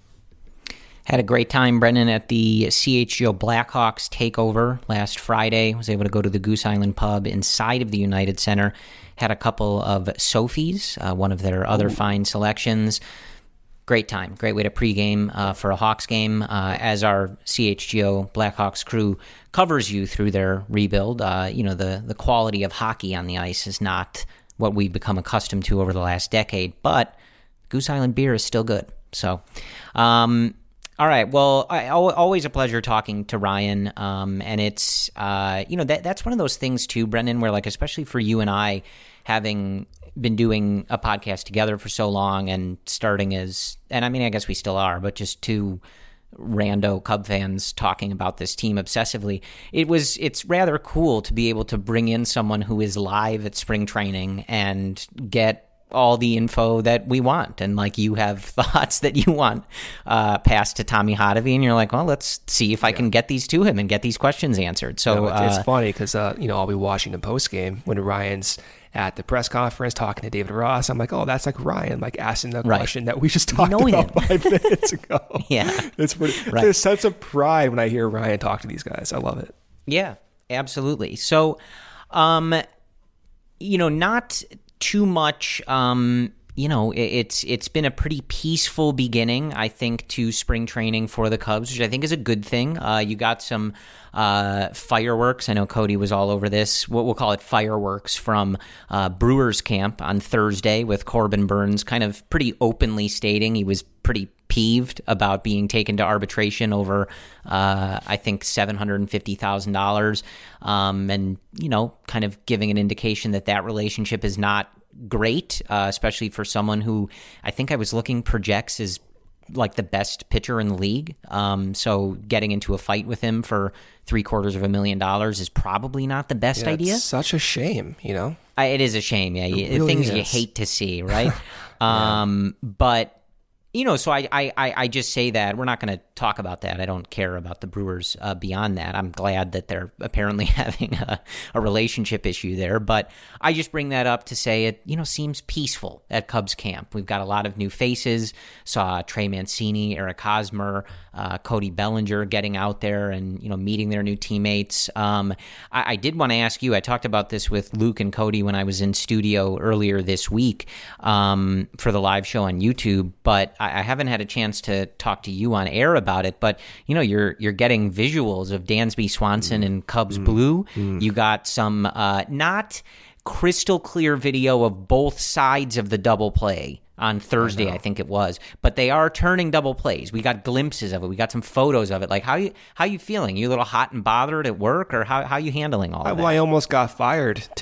Had a great time, Brendan, at the C H G O Blackhawks takeover last Friday. Was able to go to the Goose Island pub inside of the United Center. Had a couple of Sophie's, uh, one of their other Ooh. fine selections. Great time. Great way to pregame uh, for a Hawks game. Uh, as our C H G O Blackhawks crew covers you through their rebuild, uh, you know, the, the quality of hockey on the ice is not what we've become accustomed to over the last decade, but Goose Island beer is still good. So, um... All right. Well, I, always a pleasure talking to Ryan. Um, and it's, uh, you know, that that's one of those things too, Brendan, where like, especially for you and I, having been doing a podcast together for so long and starting as, and I mean, I guess we still are, but just two rando Cub fans talking about this team obsessively. It was, it's rather cool to be able to bring in someone who is live at spring training and get all the info that we want, and like you have thoughts that you want uh, passed to Tommy Hotovy, and you're like, well, let's see if I yeah. can get these to him and get these questions answered. So no, it's, uh, it's funny because uh, you know, I'll be watching the post game when Ryan's at the press conference talking to David Ross. I'm like, oh, that's like Ryan, like asking the right. question that we just talked you know about him. five minutes ago. yeah, it's pretty, right. There's such a pride when I hear Ryan talk to these guys. I love it. Yeah, absolutely. So, um, you know, not too much, um, you know, it, it's it's been a pretty peaceful beginning, I think, to spring training for the Cubs, which I think is a good thing. Uh, you got some uh, fireworks. I know Cody was all over this. What we'll call it fireworks from uh, Brewers camp on Thursday, with Corbin Burns kind of pretty openly stating he was pretty peeved about being taken to arbitration over, uh, I think, seven hundred fifty thousand dollars, um, and, you know, kind of giving an indication that that relationship is not great, uh, especially for someone who I think I was looking projects as like the best pitcher in the league. Um, so getting into a fight with him for three quarters of a million dollars is probably not the best yeah, idea. It's such a shame, you know? I, it is a shame, yeah. You, really things is. you hate to see, right? yeah. um, but You know, so I, I, I just say that. We're not going to talk about that. I don't care about the Brewers uh, beyond that. I'm glad that they're apparently having a, a relationship issue there. But I just bring that up to say it, you know, seems peaceful at Cubs camp. We've got a lot of new faces. Saw Trey Mancini, Eric Hosmer, uh, Cody Bellinger getting out there and, you know, meeting their new teammates. Um, I, I did want to ask you, I talked about this with Luke and Cody when I was in studio earlier this week um, for the live show on YouTube, but I I haven't had a chance to talk to you on air about it, but you know, you're you're getting visuals of Dansby Swanson mm. in Cubs mm. blue. Mm. You got some uh, not crystal clear video of both sides of the double play on Thursday, I, I think it was, but they are turning double plays. We got glimpses of it. We got some photos of it. Like, how you how you feeling? You a little hot and bothered at work, or how how you handling all of well, that? I almost got fired today.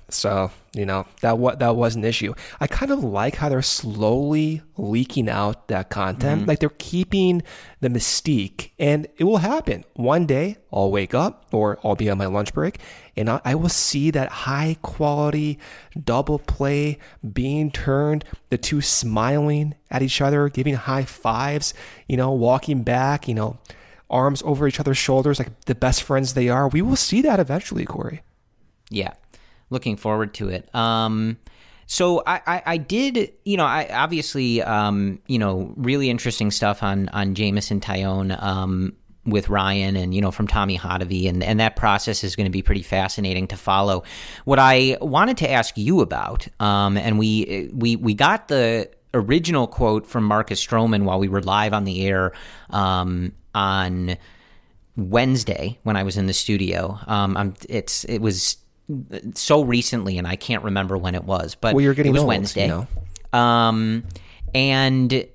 So, you know, that what that was an issue. I kind of like how they're slowly leaking out that content. Mm-hmm. Like they're keeping the mystique, and it will happen. One day I'll wake up or I'll be on my lunch break and I, I will see that high quality double play being turned, the two smiling at each other, giving high fives, you know, walking back, you know, arms over each other's shoulders like the best friends they are. We will see that eventually, Corey. Yeah. Looking forward to it. Um, so I, I, I did, you know, I obviously, um, you know, really interesting stuff on on Jameson Taillon um, with Ryan, and you know, from Tommy Hotovy, and and that process is going to be pretty fascinating to follow. What I wanted to ask you about, um, and we we we got the original quote from Marcus Stroman while we were live on the air um, on Wednesday when I was in the studio. Um, I'm, it's it was. so recently, and I can't remember when it was, but well, you're getting it was old, Wednesday. You know? Um, and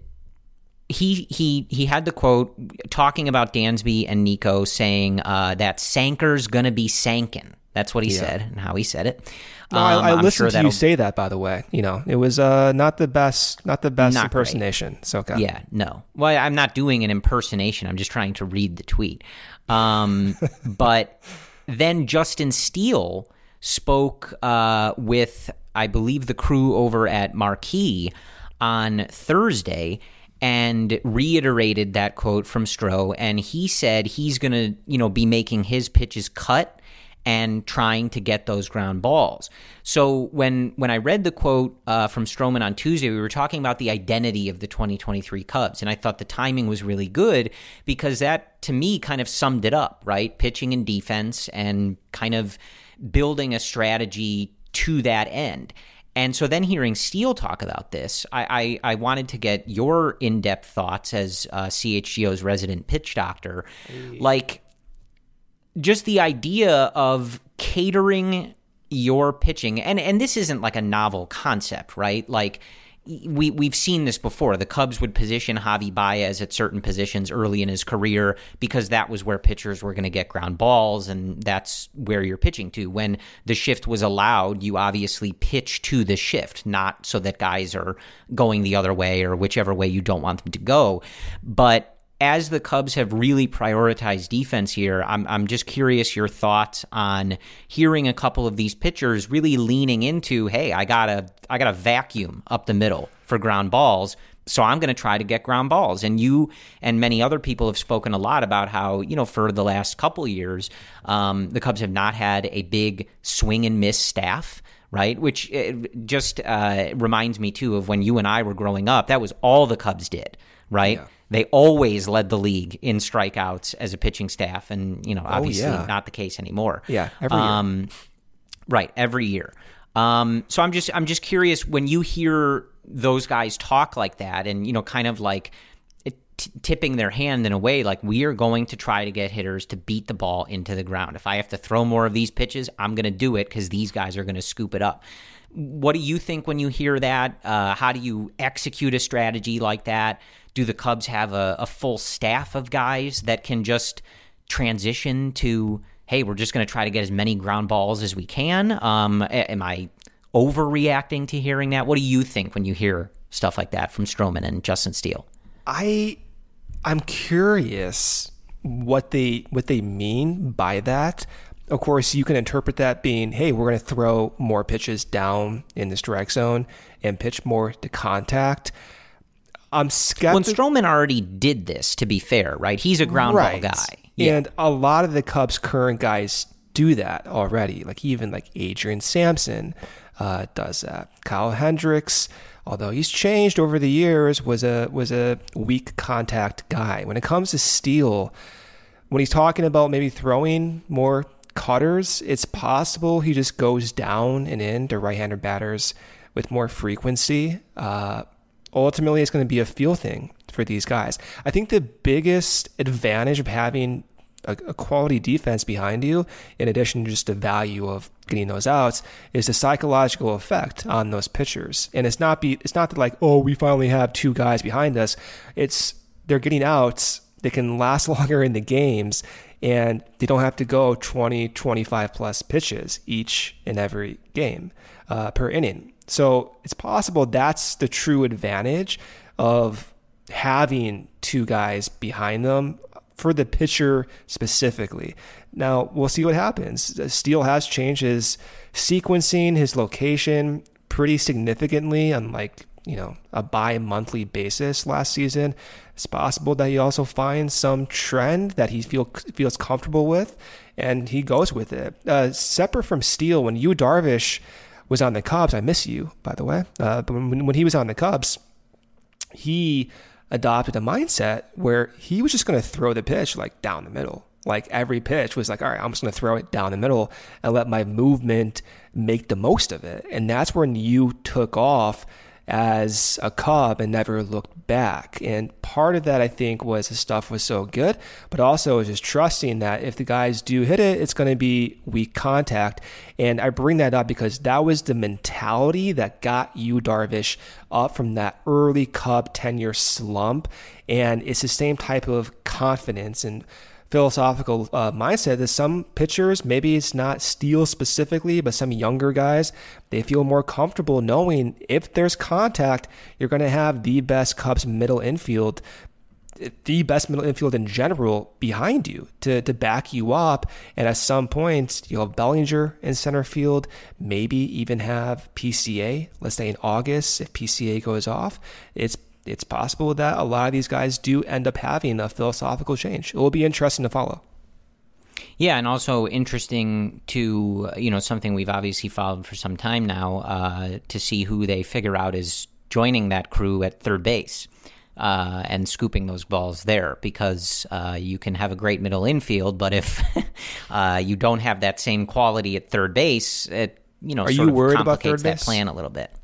he he he had the quote talking about Dansby and Nico, saying uh, that Sanker's gonna be sankin'. That's what he yeah. said, and how he said it. No, um, I, I listened sure to you say that, by the way. You know, it was uh, not the best, not the best not impersonation. Great. So okay. Yeah, no. Well, I'm not doing an impersonation. I'm just trying to read the tweet. Um, but then Justin Steele spoke uh, with, I believe, the crew over at Marquee on Thursday and reiterated that quote from Stroh. And he said he's going to, you know, be making his pitches cut and trying to get those ground balls. So when when I read the quote uh, from Stroman on Tuesday, we were talking about the identity of the twenty twenty-three Cubs, and I thought the timing was really good because that, to me, kind of summed it up, right? Pitching and defense and kind of building a strategy to that end. And so then hearing Steele talk about this, I, I, I wanted to get your in-depth thoughts as uh, C H G O's resident pitch doctor. Hey. Like, just the idea of catering your pitching, and, and this isn't like a novel concept, right? Like, we, we've seen this before. The Cubs would position Javi Baez at certain positions early in his career because that was where pitchers were going to get ground balls, and that's where you're pitching to. When the shift was allowed, you obviously pitch to the shift, not so that guys are going the other way or whichever way you don't want them to go. But as the Cubs have really prioritized defense here, I'm I'm just curious your thoughts on hearing a couple of these pitchers really leaning into, hey, I gotta I gotta vacuum up the middle for ground balls, so I'm going to try to get ground balls. And you and many other people have spoken a lot about how, you know, for the last couple of years, um, the Cubs have not had a big swing and miss staff, right? Which just uh, reminds me, too, of when you and I were growing up. That was all the Cubs did, right? Yeah. They always led the league in strikeouts as a pitching staff, and you know, obviously oh, yeah. not the case anymore. Yeah, every year. Um, right, every year. Um, so I'm just I'm just curious when you hear those guys talk like that, and you know, kind of like t- tipping their hand in a way, like we are going to try to get hitters to beat the ball into the ground. If I have to throw more of these pitches, I'm going to do it because these guys are going to scoop it up. What do you think when you hear that? Uh, how do you execute a strategy like that? Do the Cubs have a, a full staff of guys that can just transition to, hey, we're just going to try to get as many ground balls as we can? Um, am I overreacting to hearing that? What do you think when you hear stuff like that from Stroman and Justin Steele? I, I'm curious what they what they mean by that. Of course, you can interpret that being, hey, we're going to throw more pitches down in the strike zone and pitch more to contact. I'm skeptical. When Stroman already did this, to be fair, right? He's a ground right. ball guy. Yeah. And a lot of the Cubs' current guys do that already. Like even like Adrian Sampson uh, does that. Kyle Hendricks, although he's changed over the years, was a was a weak contact guy. When it comes to Steele, when he's talking about maybe throwing more cutters, it's possible he just goes down and in to right-handed batters with more frequency. Uh, ultimately, it's going to be a feel thing for these guys. I think the biggest advantage of having a, a quality defense behind you, in addition to just the value of getting those outs, is the psychological effect on those pitchers. And it's not be it's not that like, oh, we finally have two guys behind us. It's they're getting outs. They can last longer in the games. and they don't have to go twenty, twenty-five plus pitches each and every game uh, per inning. So it's possible that's the true advantage of having two guys behind them for the pitcher specifically. Now, we'll see what happens. Steele has changed his sequencing, his location pretty significantly on like, you know, a bi-monthly basis last season. It's possible that he also finds some trend that he feel, feels comfortable with, and he goes with it. Uh, separate from Steele, when Yu Darvish was on the Cubs, I miss you, by the way, uh, but when, when he was on the Cubs, he adopted a mindset where he was just going to throw the pitch like down the middle. Like every pitch was like, all right, I'm just going to throw it down the middle and let my movement make the most of it. And that's when you took off as a Cub and never looked back. And part of that, I think, was the stuff was so good, but also was just trusting that if the guys do hit it, it's going to be weak contact. And I bring that up because that was the mentality that got Yu Darvish up from that early Cub tenure slump. And it's the same type of confidence and philosophical uh, mindset that some pitchers, maybe it's not Steele specifically, but some younger guys, they feel more comfortable knowing if there's contact, you're going to have the best Cubs middle infield, the best middle infield in general behind you to, to back you up. And at some point, you'll have Bellinger in center field, maybe even have P C A, let's say in August, if P C A goes off. It's It's possible that a lot of these guys do end up having a philosophical change. It will be interesting to follow. Yeah, and also interesting to, you know, something we've obviously followed for some time now, uh, to see who they figure out is joining that crew at third base uh, and scooping those balls there, because uh, you can have a great middle infield, but if uh, you don't have that same quality at third base, it, you know, Are sort you of worried about complicates third that base? plan a little bit.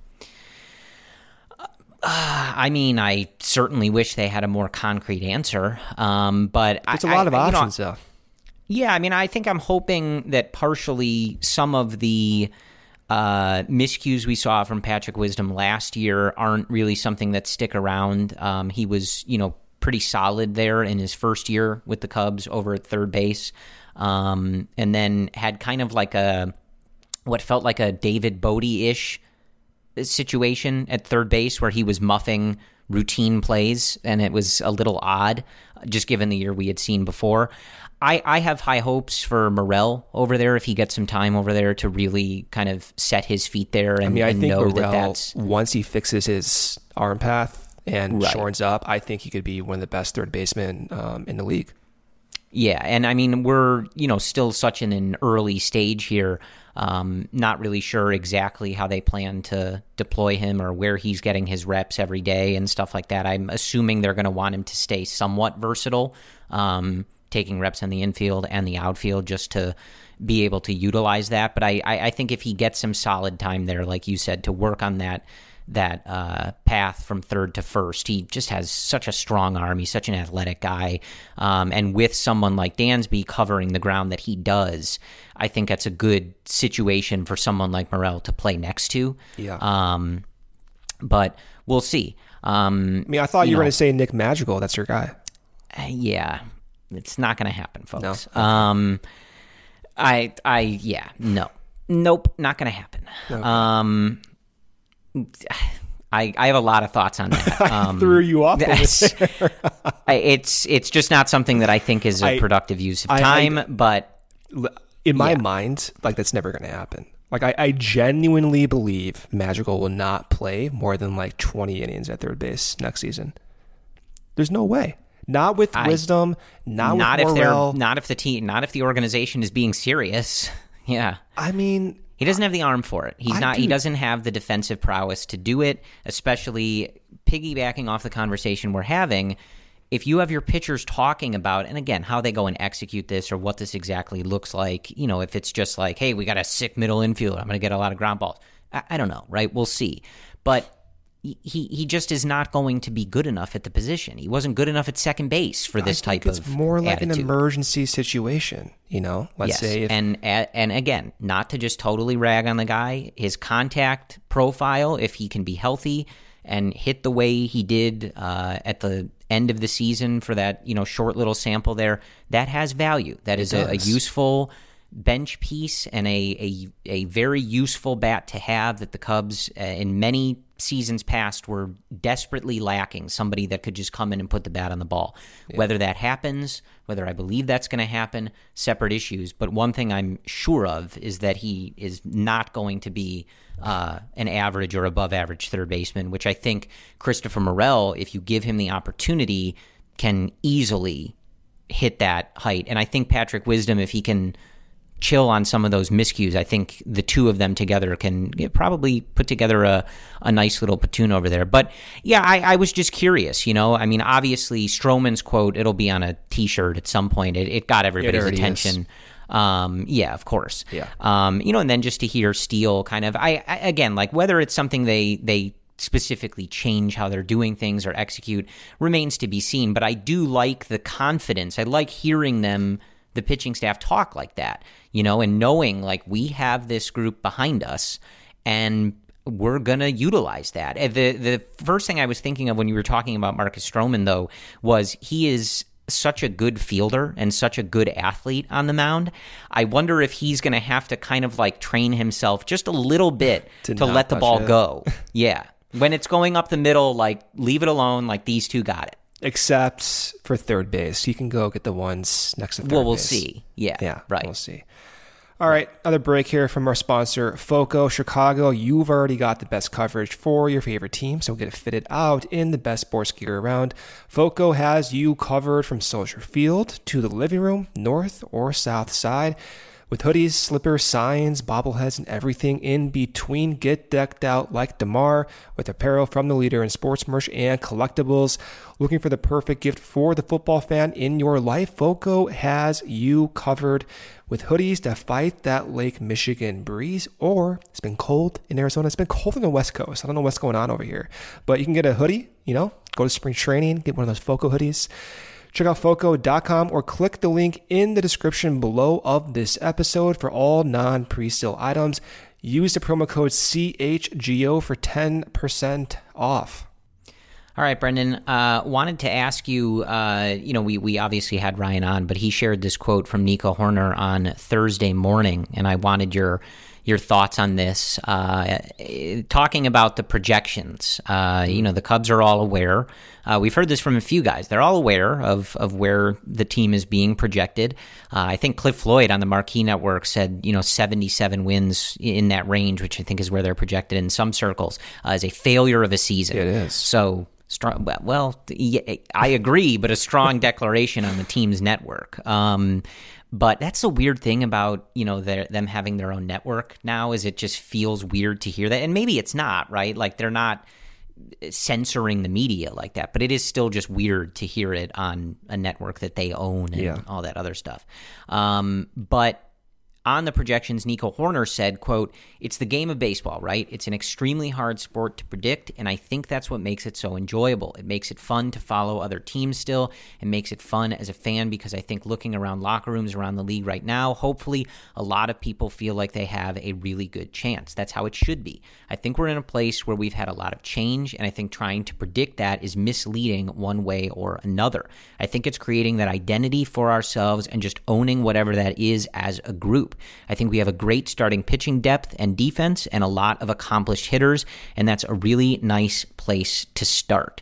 Uh, I mean, I certainly wish they had a more concrete answer, um, but It's a I, lot of I, options, you know, though. Yeah, I mean, I think I'm hoping that partially some of the uh, miscues we saw from Patrick Wisdom last year aren't really something that stick around. Um, he was, you know, pretty solid there in his first year with the Cubs over at third base, um, and then had kind of like a what felt like a David Bodie-ish situation at third base where he was muffing routine plays, and it was a little odd, just given the year we had seen before. I, I have high hopes for Morel over there if he gets some time over there to really kind of set his feet there and, I mean, I and think know Morel, that that's... once he fixes his arm path and Right. shortens up, I think he could be one of the best third basemen um, in the league. Yeah, and I mean, we're, you know, still such in an early stage here. Um, not really sure exactly how they plan to deploy him or where he's getting his reps every day and stuff like that. I'm assuming they're going to want him to stay somewhat versatile, um, taking reps in the infield and the outfield just to be able to utilize that. But I, I, I think if he gets some solid time there, like you said, to work on that that uh, path from third to first. He just has such a strong arm. He's such an athletic guy. Um, and with someone like Dansby covering the ground that he does, I think that's a good situation for someone like Morel to play next to. Yeah. Um, but we'll see. Um, I mean, I thought you, you were know, going to say Nick Madrigal. That's your guy. uh, yeah, it's not going to happen, folks. No? Um, I, I, yeah, no. Nope, not going to happen. Okay. Um, I, I have a lot of thoughts on that. Um, I threw you off. that's- I- it's it's just not something that I think is a I- productive use of I- time. I- but In my Yeah. mind, like that's never going to happen. Like I, I genuinely believe Madrigal will not play more than like twenty innings at third base next season. There's no way. Not with I- Wisdom. Not, not with if they're Morel. not if the team not if the organization is being serious. Yeah. I mean, He doesn't have the arm for it. He's I not. He do- doesn't have the defensive prowess to do it. Especially piggybacking off the conversation we're having, if you have your pitchers talking about, and again, how they go and execute this or what this exactly looks like. You know, if it's just like, hey, we got a sick middle infielder, I'm going to get a lot of ground balls. I, I don't know, right? We'll see. But he he just is not going to be good enough at the position. He wasn't good enough at second base for this I think type it's of more like attitude. an emergency situation. You know, let's Yes, say if and and again, not to just totally rag on the guy, his contact profile, if he can be healthy and hit the way he did uh, at the end of the season for that, you know, short little sample there, that has value. That is a, a useful bench piece and a, a a very useful bat to have that the Cubs uh, in many seasons past were desperately lacking, somebody that could just come in and put the bat on the ball. Yeah. Whether that happens, whether I believe that's going to happen, separate issues. But one thing I'm sure of is that he is not going to be uh, an average or above average third baseman, which I think Christopher Morel, if you give him the opportunity, can easily hit that height. And I think Patrick Wisdom, if he can chill on some of those miscues, I think the two of them together can probably put together a, a nice little platoon over there. But yeah, I, I was just curious, you know, I mean, obviously Stroman's quote, it'll be on a t-shirt at some point. It, it got everybody's it attention. Is. Um, yeah, of course. Yeah. Um, you know, and then just to hear Steele kind of, I, I again, like whether it's something they, they specifically change how they're doing things or execute remains to be seen. But I do like the confidence. I like hearing them, the pitching staff, talk like that, you know, and knowing like we have this group behind us and we're going to utilize that. The the first thing I was thinking of when you were talking about Marcus Stroman, though, was he is such a good fielder and such a good athlete on the mound. I wonder if he's going to have to kind of like train himself just a little bit to, to let the ball it. go. Yeah. When it's going up the middle, like leave it alone, like these two got it. Except for third base. He can go get the ones next to third base. Well, we'll base. see. Yeah, yeah, right. We'll see. All right, another break here from our sponsor, FOCO. Chicago, you've already got the best coverage for your favorite team, so get it fitted out in the best sports gear around. FOCO has you covered from Soldier Field to the living room, north or south side. With hoodies, slippers, signs, bobbleheads, and everything in between, get decked out like DeMar with apparel from the leader in sports merch and collectibles. Looking for the perfect gift for the football fan in your life? FOCO has you covered with hoodies to fight that Lake Michigan breeze, or it's been cold in Arizona. It's been cold on the West Coast. I don't know what's going on over here, but you can get a hoodie, you know, go to spring training, get one of those FOCO hoodies. Check out foco dot com or click the link in the description below of this episode for all non-pre-sale items. Use the promo code C H G O for ten percent off. All right, Brendan, uh, wanted to ask you, uh, you know, we, we obviously had Ryan on, but he shared this quote from Nico Horner on Thursday morning, and I wanted your your thoughts on this. Uh, talking about the projections, uh, you know, the Cubs are all aware. Uh, we've heard this from a few guys. They're all aware of, of where the team is being projected. Uh, I think Cliff Floyd on the Marquee Network said, you know, seventy-seven wins in that range, which I think is where they're projected in some circles, uh, as a failure of a season. It is. So, strong. Well, I agree, but a strong declaration on the team's network. Um, But that's the weird thing about, you know, them having their own network now, is it just feels weird to hear that. And maybe it's not, right? Like they're not censoring the media like that, but it is still just weird to hear it on a network that they own and yeah. all that other stuff. Um, but on the projections, Nico Horner said, quote, "It's the game of baseball, right? It's an extremely hard sport to predict, and I think that's what makes it so enjoyable. It makes it fun to follow other teams still, and makes it fun as a fan, because I think looking around locker rooms around the league right now, hopefully a lot of people feel like they have a really good chance. That's how it should be. I think we're in a place where we've had a lot of change, and I think trying to predict that is misleading one way or another. I think it's creating that identity for ourselves and just owning whatever that is as a group. I think we have a great starting pitching depth and defense and a lot of accomplished hitters, and that's a really nice place to start."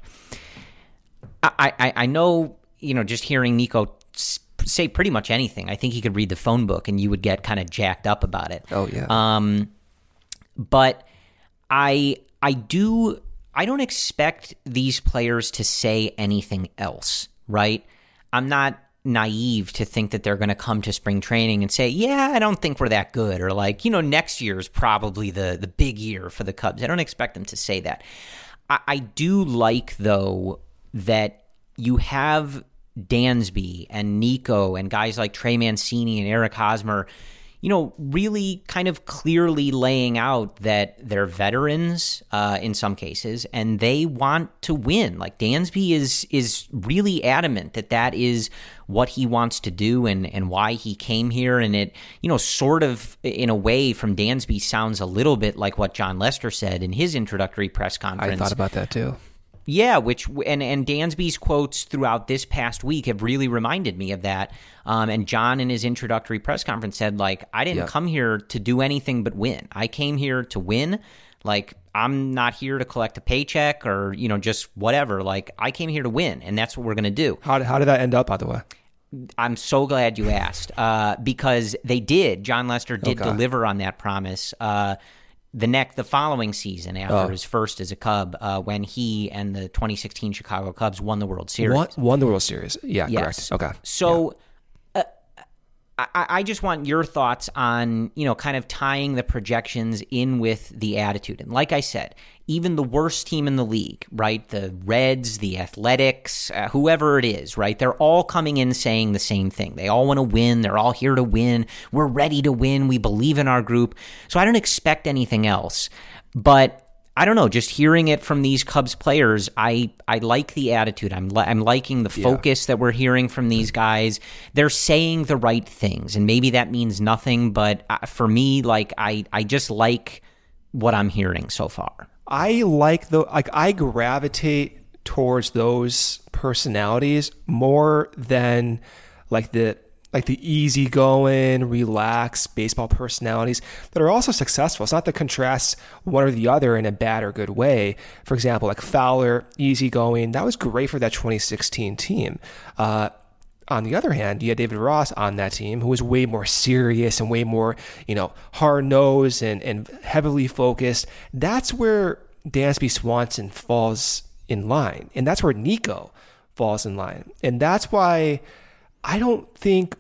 I, I, I know, you know, just hearing Nico say pretty much anything, I think he could read the phone book and you would get kind of jacked up about it. Oh, yeah. Um, but I I do I don't expect these players to say anything else, right? I'm not naive to think that they're going to come to spring training and say, yeah, I don't think we're that good, or like, you know, next year is probably the the big year for the Cubs. I don't expect them to say that. I, I do like, though, that you have Dansby and Nico and guys like Trey Mancini and Eric Hosmer, you know, really kind of clearly laying out that they're veterans uh, in some cases, and they want to win. Like Dansby is is really adamant that that is what he wants to do and, and why he came here. And it, you know, sort of in a way from Dansby sounds a little bit like what John Lester said in his introductory press conference. I thought about that too. Yeah, which and and Dansby's quotes throughout this past week have really reminded me of that. Um, and John, in his introductory press conference, said, like, I didn't yeah. come here to do anything but win. I came here to win. Like, I'm not here to collect a paycheck or, you know, just whatever. Like, I came here to win, and that's what we're going to do. How did, how did that end up, by the way? I'm so glad you asked, uh, because they did. John Lester did Okay. deliver on that promise. Uh, the next, the following season, after Oh. his first as a Cub, uh, when he and the twenty sixteen Chicago Cubs won the World Series. Won, won the World Series. Yeah, Yes. correct. Okay. So uh, I, I just want your thoughts on, you know, kind of tying the projections in with the attitude. And like I said, even the worst team in the league, right? The Reds, the Athletics, uh, whoever it is, right? They're all coming in saying the same thing. They all want to win. They're all here to win. We're ready to win. We believe in our group. So I don't expect anything else. But I don't know, just hearing it from these Cubs players, I, I like the attitude. I'm li- I'm liking the focus yeah. that we're hearing from these guys. They're saying the right things, and maybe that means nothing, but for me, like I, I just like what I'm hearing so far. I like the like I gravitate towards those personalities more than like the like the easygoing, relaxed baseball personalities that are also successful. It's not to contrast one or the other in a bad or good way. For example, like Fowler, easygoing, that was great for that twenty sixteen team. Uh, on the other hand, you had David Ross on that team who was way more serious and way more, you know, hard-nosed and, and heavily focused. That's where Dansby Swanson falls in line. And that's where Nico falls in line. And that's why I don't think,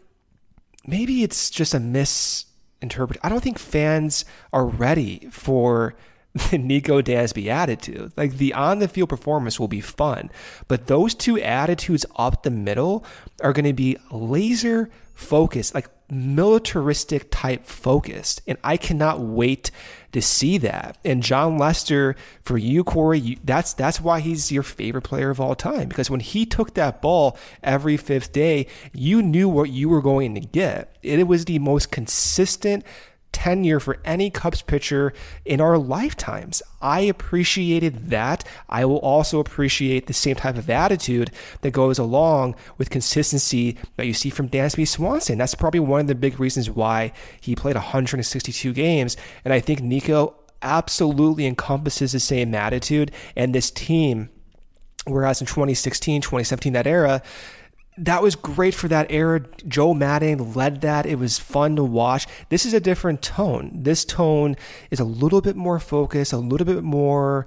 maybe it's just a misinterpretation. I don't think fans are ready for the Nico Dansby attitude. Like the on the field performance will be fun, but those two attitudes up the middle are going to be laser focused, like militaristic type focused. And I cannot wait to see that. And John Lester, for you, Corey, you, that's that's why he's your favorite player of all time, because when he took that ball every fifth day, you knew what you were going to get. It was the most consistent tenure for any Cubs pitcher in our lifetimes. I appreciated that. I will also appreciate the same type of attitude that goes along with consistency that you see from Dansby Swanson. That's probably one of the big reasons why he played one hundred sixty-two games. And I think Nico absolutely encompasses the same attitude. And this team, whereas in twenty sixteen, twenty seventeen, that era, that was great for that era. Joe Maddon led that. It was fun to watch. This is a different tone. This tone is a little bit more focused, a little bit more,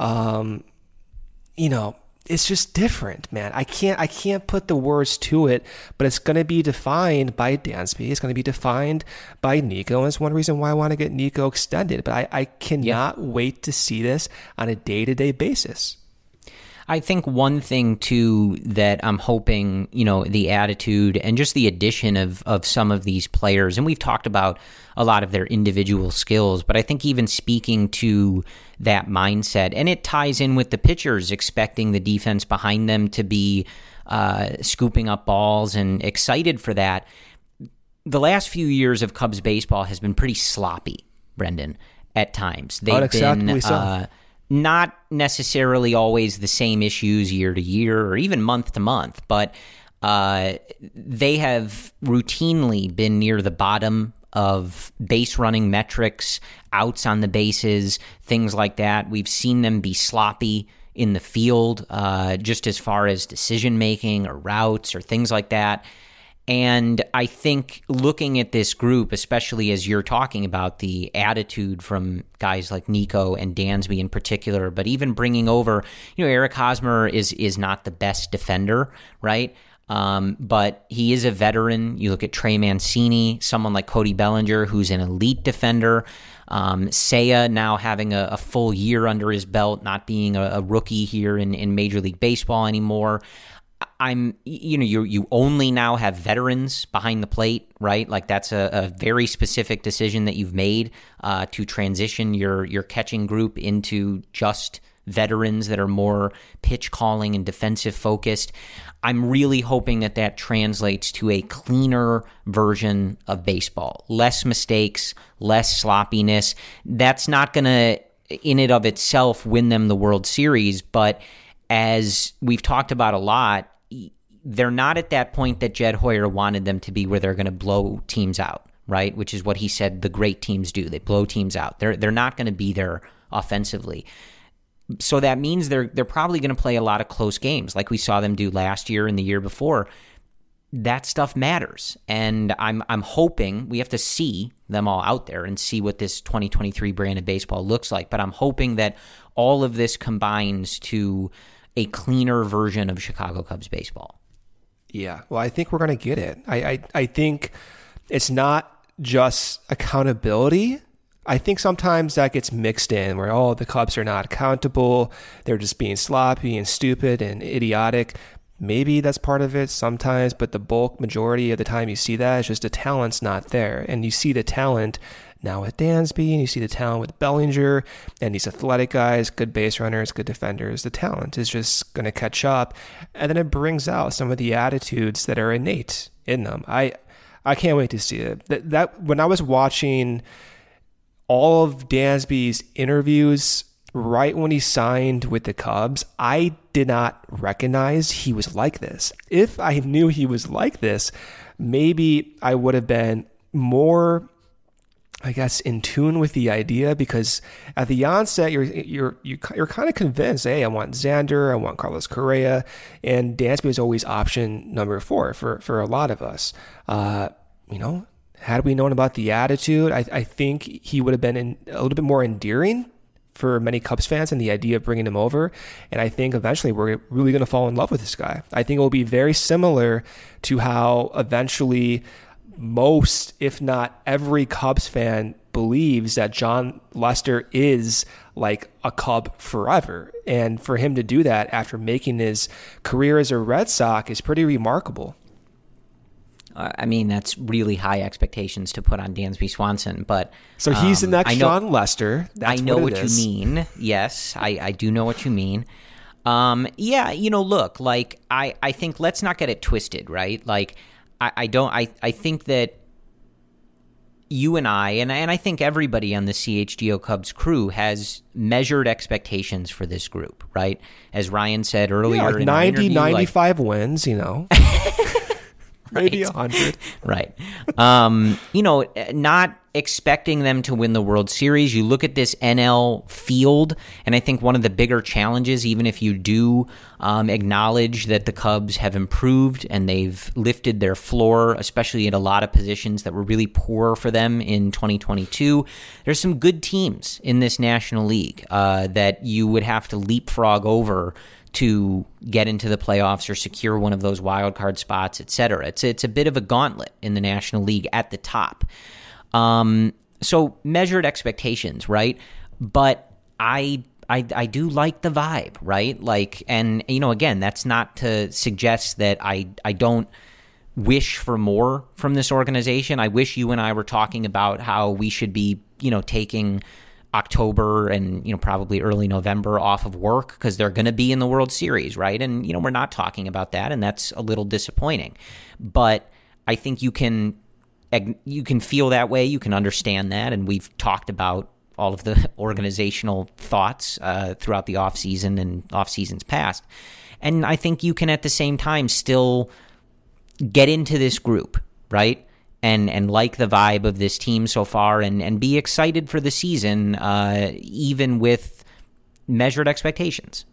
um, you know, it's just different, man. I can't, I can't put the words to it, but it's going to be defined by Dansby. It's going to be defined by Nico. And it's one reason why I want to get Nico extended, but I, I cannot yeah. wait to see this on a day-to-day basis. I think one thing, too, that I'm hoping, you know, the attitude and just the addition of, of some of these players, and we've talked about a lot of their individual skills, but I think even speaking to that mindset, and it ties in with the pitchers expecting the defense behind them to be uh, scooping up balls and excited for that. The last few years of Cubs baseball has been pretty sloppy, Brendan, at times. They've been... so. Uh, Not necessarily always the same issues year to year or even month to month, but uh, they have routinely been near the bottom of base running metrics, outs on the bases, things like that. We've seen them be sloppy in the field, uh, just as far as decision making or routes or things like that. And I think looking at this group, especially as you're talking about the attitude from guys like Nico and Dansby in particular, but even bringing over, you know, Eric Hosmer is is not the best defender, right? Um, but he is a veteran. You look at Trey Mancini, someone like Cody Bellinger, who's an elite defender. Um, Seiya now having a, a full year under his belt, not being a, a rookie here in, in Major League Baseball anymore. I'm, you know, you you only now have veterans behind the plate, right? Like that's a, a very specific decision that you've made uh, to transition your your catching group into just veterans that are more pitch calling and defensive focused. I'm really hoping that that translates to a cleaner version of baseball, less mistakes, less sloppiness. That's not going to, in and of itself, win them the World Series, but as we've talked about a lot, they're not at that point that Jed Hoyer wanted them to be, where they're going to blow teams out, right? Which is what he said the great teams do. They blow teams out. They're they're not going to be there offensively. So that means they're they're probably going to play a lot of close games, like we saw them do last year and the year before. That stuff matters, and I'm I'm hoping we have to see them all out there and see what this twenty twenty-three brand of baseball looks like. But I'm hoping that all of this combines to a cleaner version of Chicago Cubs baseball. Yeah, well, I think we're going to get it. I, I I think it's not just accountability. I think sometimes that gets mixed in where, oh, the Cubs are not accountable. They're just being sloppy and stupid and idiotic. Maybe that's part of it sometimes, but the bulk majority of the time you see that, it's just the talent's not there. And you see the talent now with Dansby, and you see the talent with Bellinger, and these athletic guys, good base runners, good defenders. The talent is just going to catch up, and then it brings out some of the attitudes that are innate in them. I I can't wait to see it. That, that when I was watching all of Dansby's interviews right when he signed with the Cubs, I did not recognize he was like this. If I knew he was like this, maybe I would have been more, I guess, in tune with the idea, because at the onset, you're you're you're kind of convinced, hey, I want Xander, I want Carlos Correa, and Dansby was always option number four for for a lot of us. Uh, you know, had we known about the attitude, I, I think he would have been in, a little bit more endearing for many Cubs fans, and the idea of bringing him over. And I think eventually we're really going to fall in love with this guy. I think it will be very similar to how eventually most, if not every Cubs fan believes that Jon Lester is like a Cub forever. And for him to do that after making his career as a Red Sox is pretty remarkable. I mean, that's really high expectations to put on Dansby Swanson, but so he's um, the next I know, Jon Lester. That's I know what, what you mean. Yes, I, I do know what you mean. Um, yeah, you know, look, like I, I think let's not get it twisted, right? Like I, I don't. I, I think that you and I, and and I think everybody on the C H G O Cubs crew has measured expectations for this group, right? As Ryan said earlier, yeah, like in ninety, interview, ninety-five like, wins, you know. Maybe a hundred. Right. Um, you know, not expecting them to win the World Series. You look at this N L field, and I think one of the bigger challenges, even if you do um, acknowledge that the Cubs have improved and they've lifted their floor, especially in a lot of positions that were really poor for them in twenty twenty-two, there's some good teams in this National League uh, that you would have to leapfrog over to get into the playoffs or secure one of those wild card spots, et cetera. It's it's a bit of a gauntlet in the National League at the top. Um, so measured expectations, right? But I, I I do like the vibe, right? Like, and you know, again, that's not to suggest that I I don't wish for more from this organization. I wish you and I were talking about how we should be, you know, taking October and, you know, probably early November off of work because they're going to be in the World Series, right? And, you know, we're not talking about that, and that's a little disappointing. But I think you can you can feel that way, you can understand that, and we've talked about all of the organizational thoughts uh, throughout the offseason and off seasons past. And I think you can at the same time still get into this group, right? And and like the vibe of this team so far, and, and be excited for the season, uh, even with measured expectations.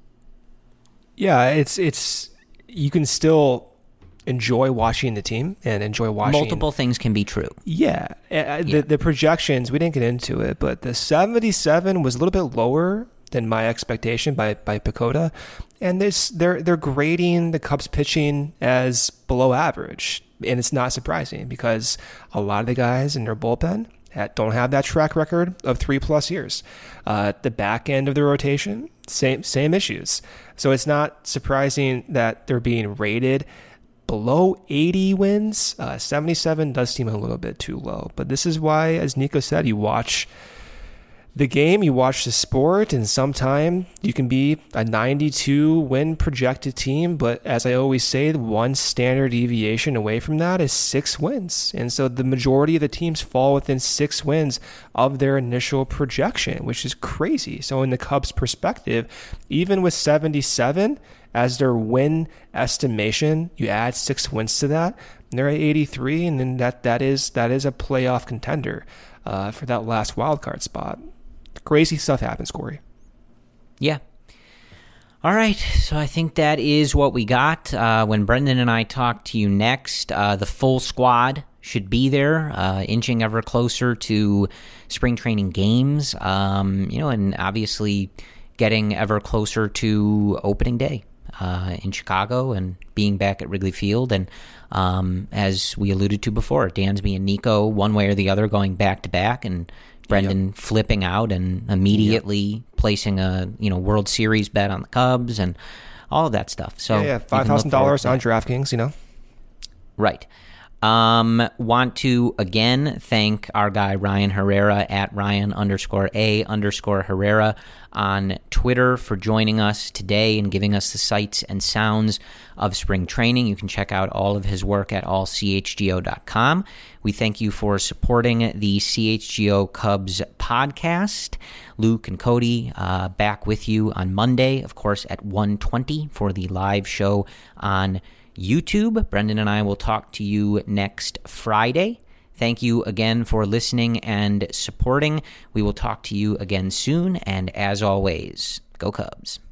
Yeah, it's it's you can still enjoy watching the team and enjoy watching. Multiple things can be true. Yeah, uh, yeah. The the projections, we didn't get into it, but the seventy-seven was a little bit lower than my expectation by by Pacoda, and this they're they're grading the Cubs pitching as below average. And it's not surprising because a lot of the guys in their bullpen don't have that track record of three plus years. Uh, the back end of the rotation, same same issues. So it's not surprising that they're being rated below eighty wins. Uh, seventy-seven does seem a little bit too low. But this is why, as Nico said, you watch the game, you watch the sport, and sometime you can be a ninety-two win projected team. But as I always say, one standard deviation away from that is six wins. And so the majority of the teams fall within six wins of their initial projection, which is crazy. So in the Cubs' perspective, even with seventy-seven as their win estimation, you add six wins to that, and they're at eighty-three, and then that, that is that is a playoff contender uh, for that last wild card spot. Crazy stuff happens, Corey. Yeah. All right. So I think that is what we got. Uh, when Brendan and I talk to you next, uh, the full squad should be there, uh, inching ever closer to spring training games, um, you know, and obviously getting ever closer to opening day uh, in Chicago and being back at Wrigley Field. And um, as we alluded to before, Dansby and Nico, one way or the other, going back to back, and Brendan yep. flipping out and immediately yep. placing a you know World Series bet on the Cubs and all of that stuff. So yeah, yeah. five thousand dollars on DraftKings, you know. Right. Um, want to again thank our guy Ryan Herrera at Ryan underscore A underscore Herrera on Twitter for joining us today and giving us the sights and sounds of spring training. You can check out all of his work at all c h g o dot com. We thank you for supporting the C H G O Cubs podcast. Luke and Cody uh, back with you on Monday, of course, at one twenty for the live show on YouTube. Brendan and I will talk to you next Friday. Thank you again for listening and supporting. We will talk to you again soon, and as always, go Cubs.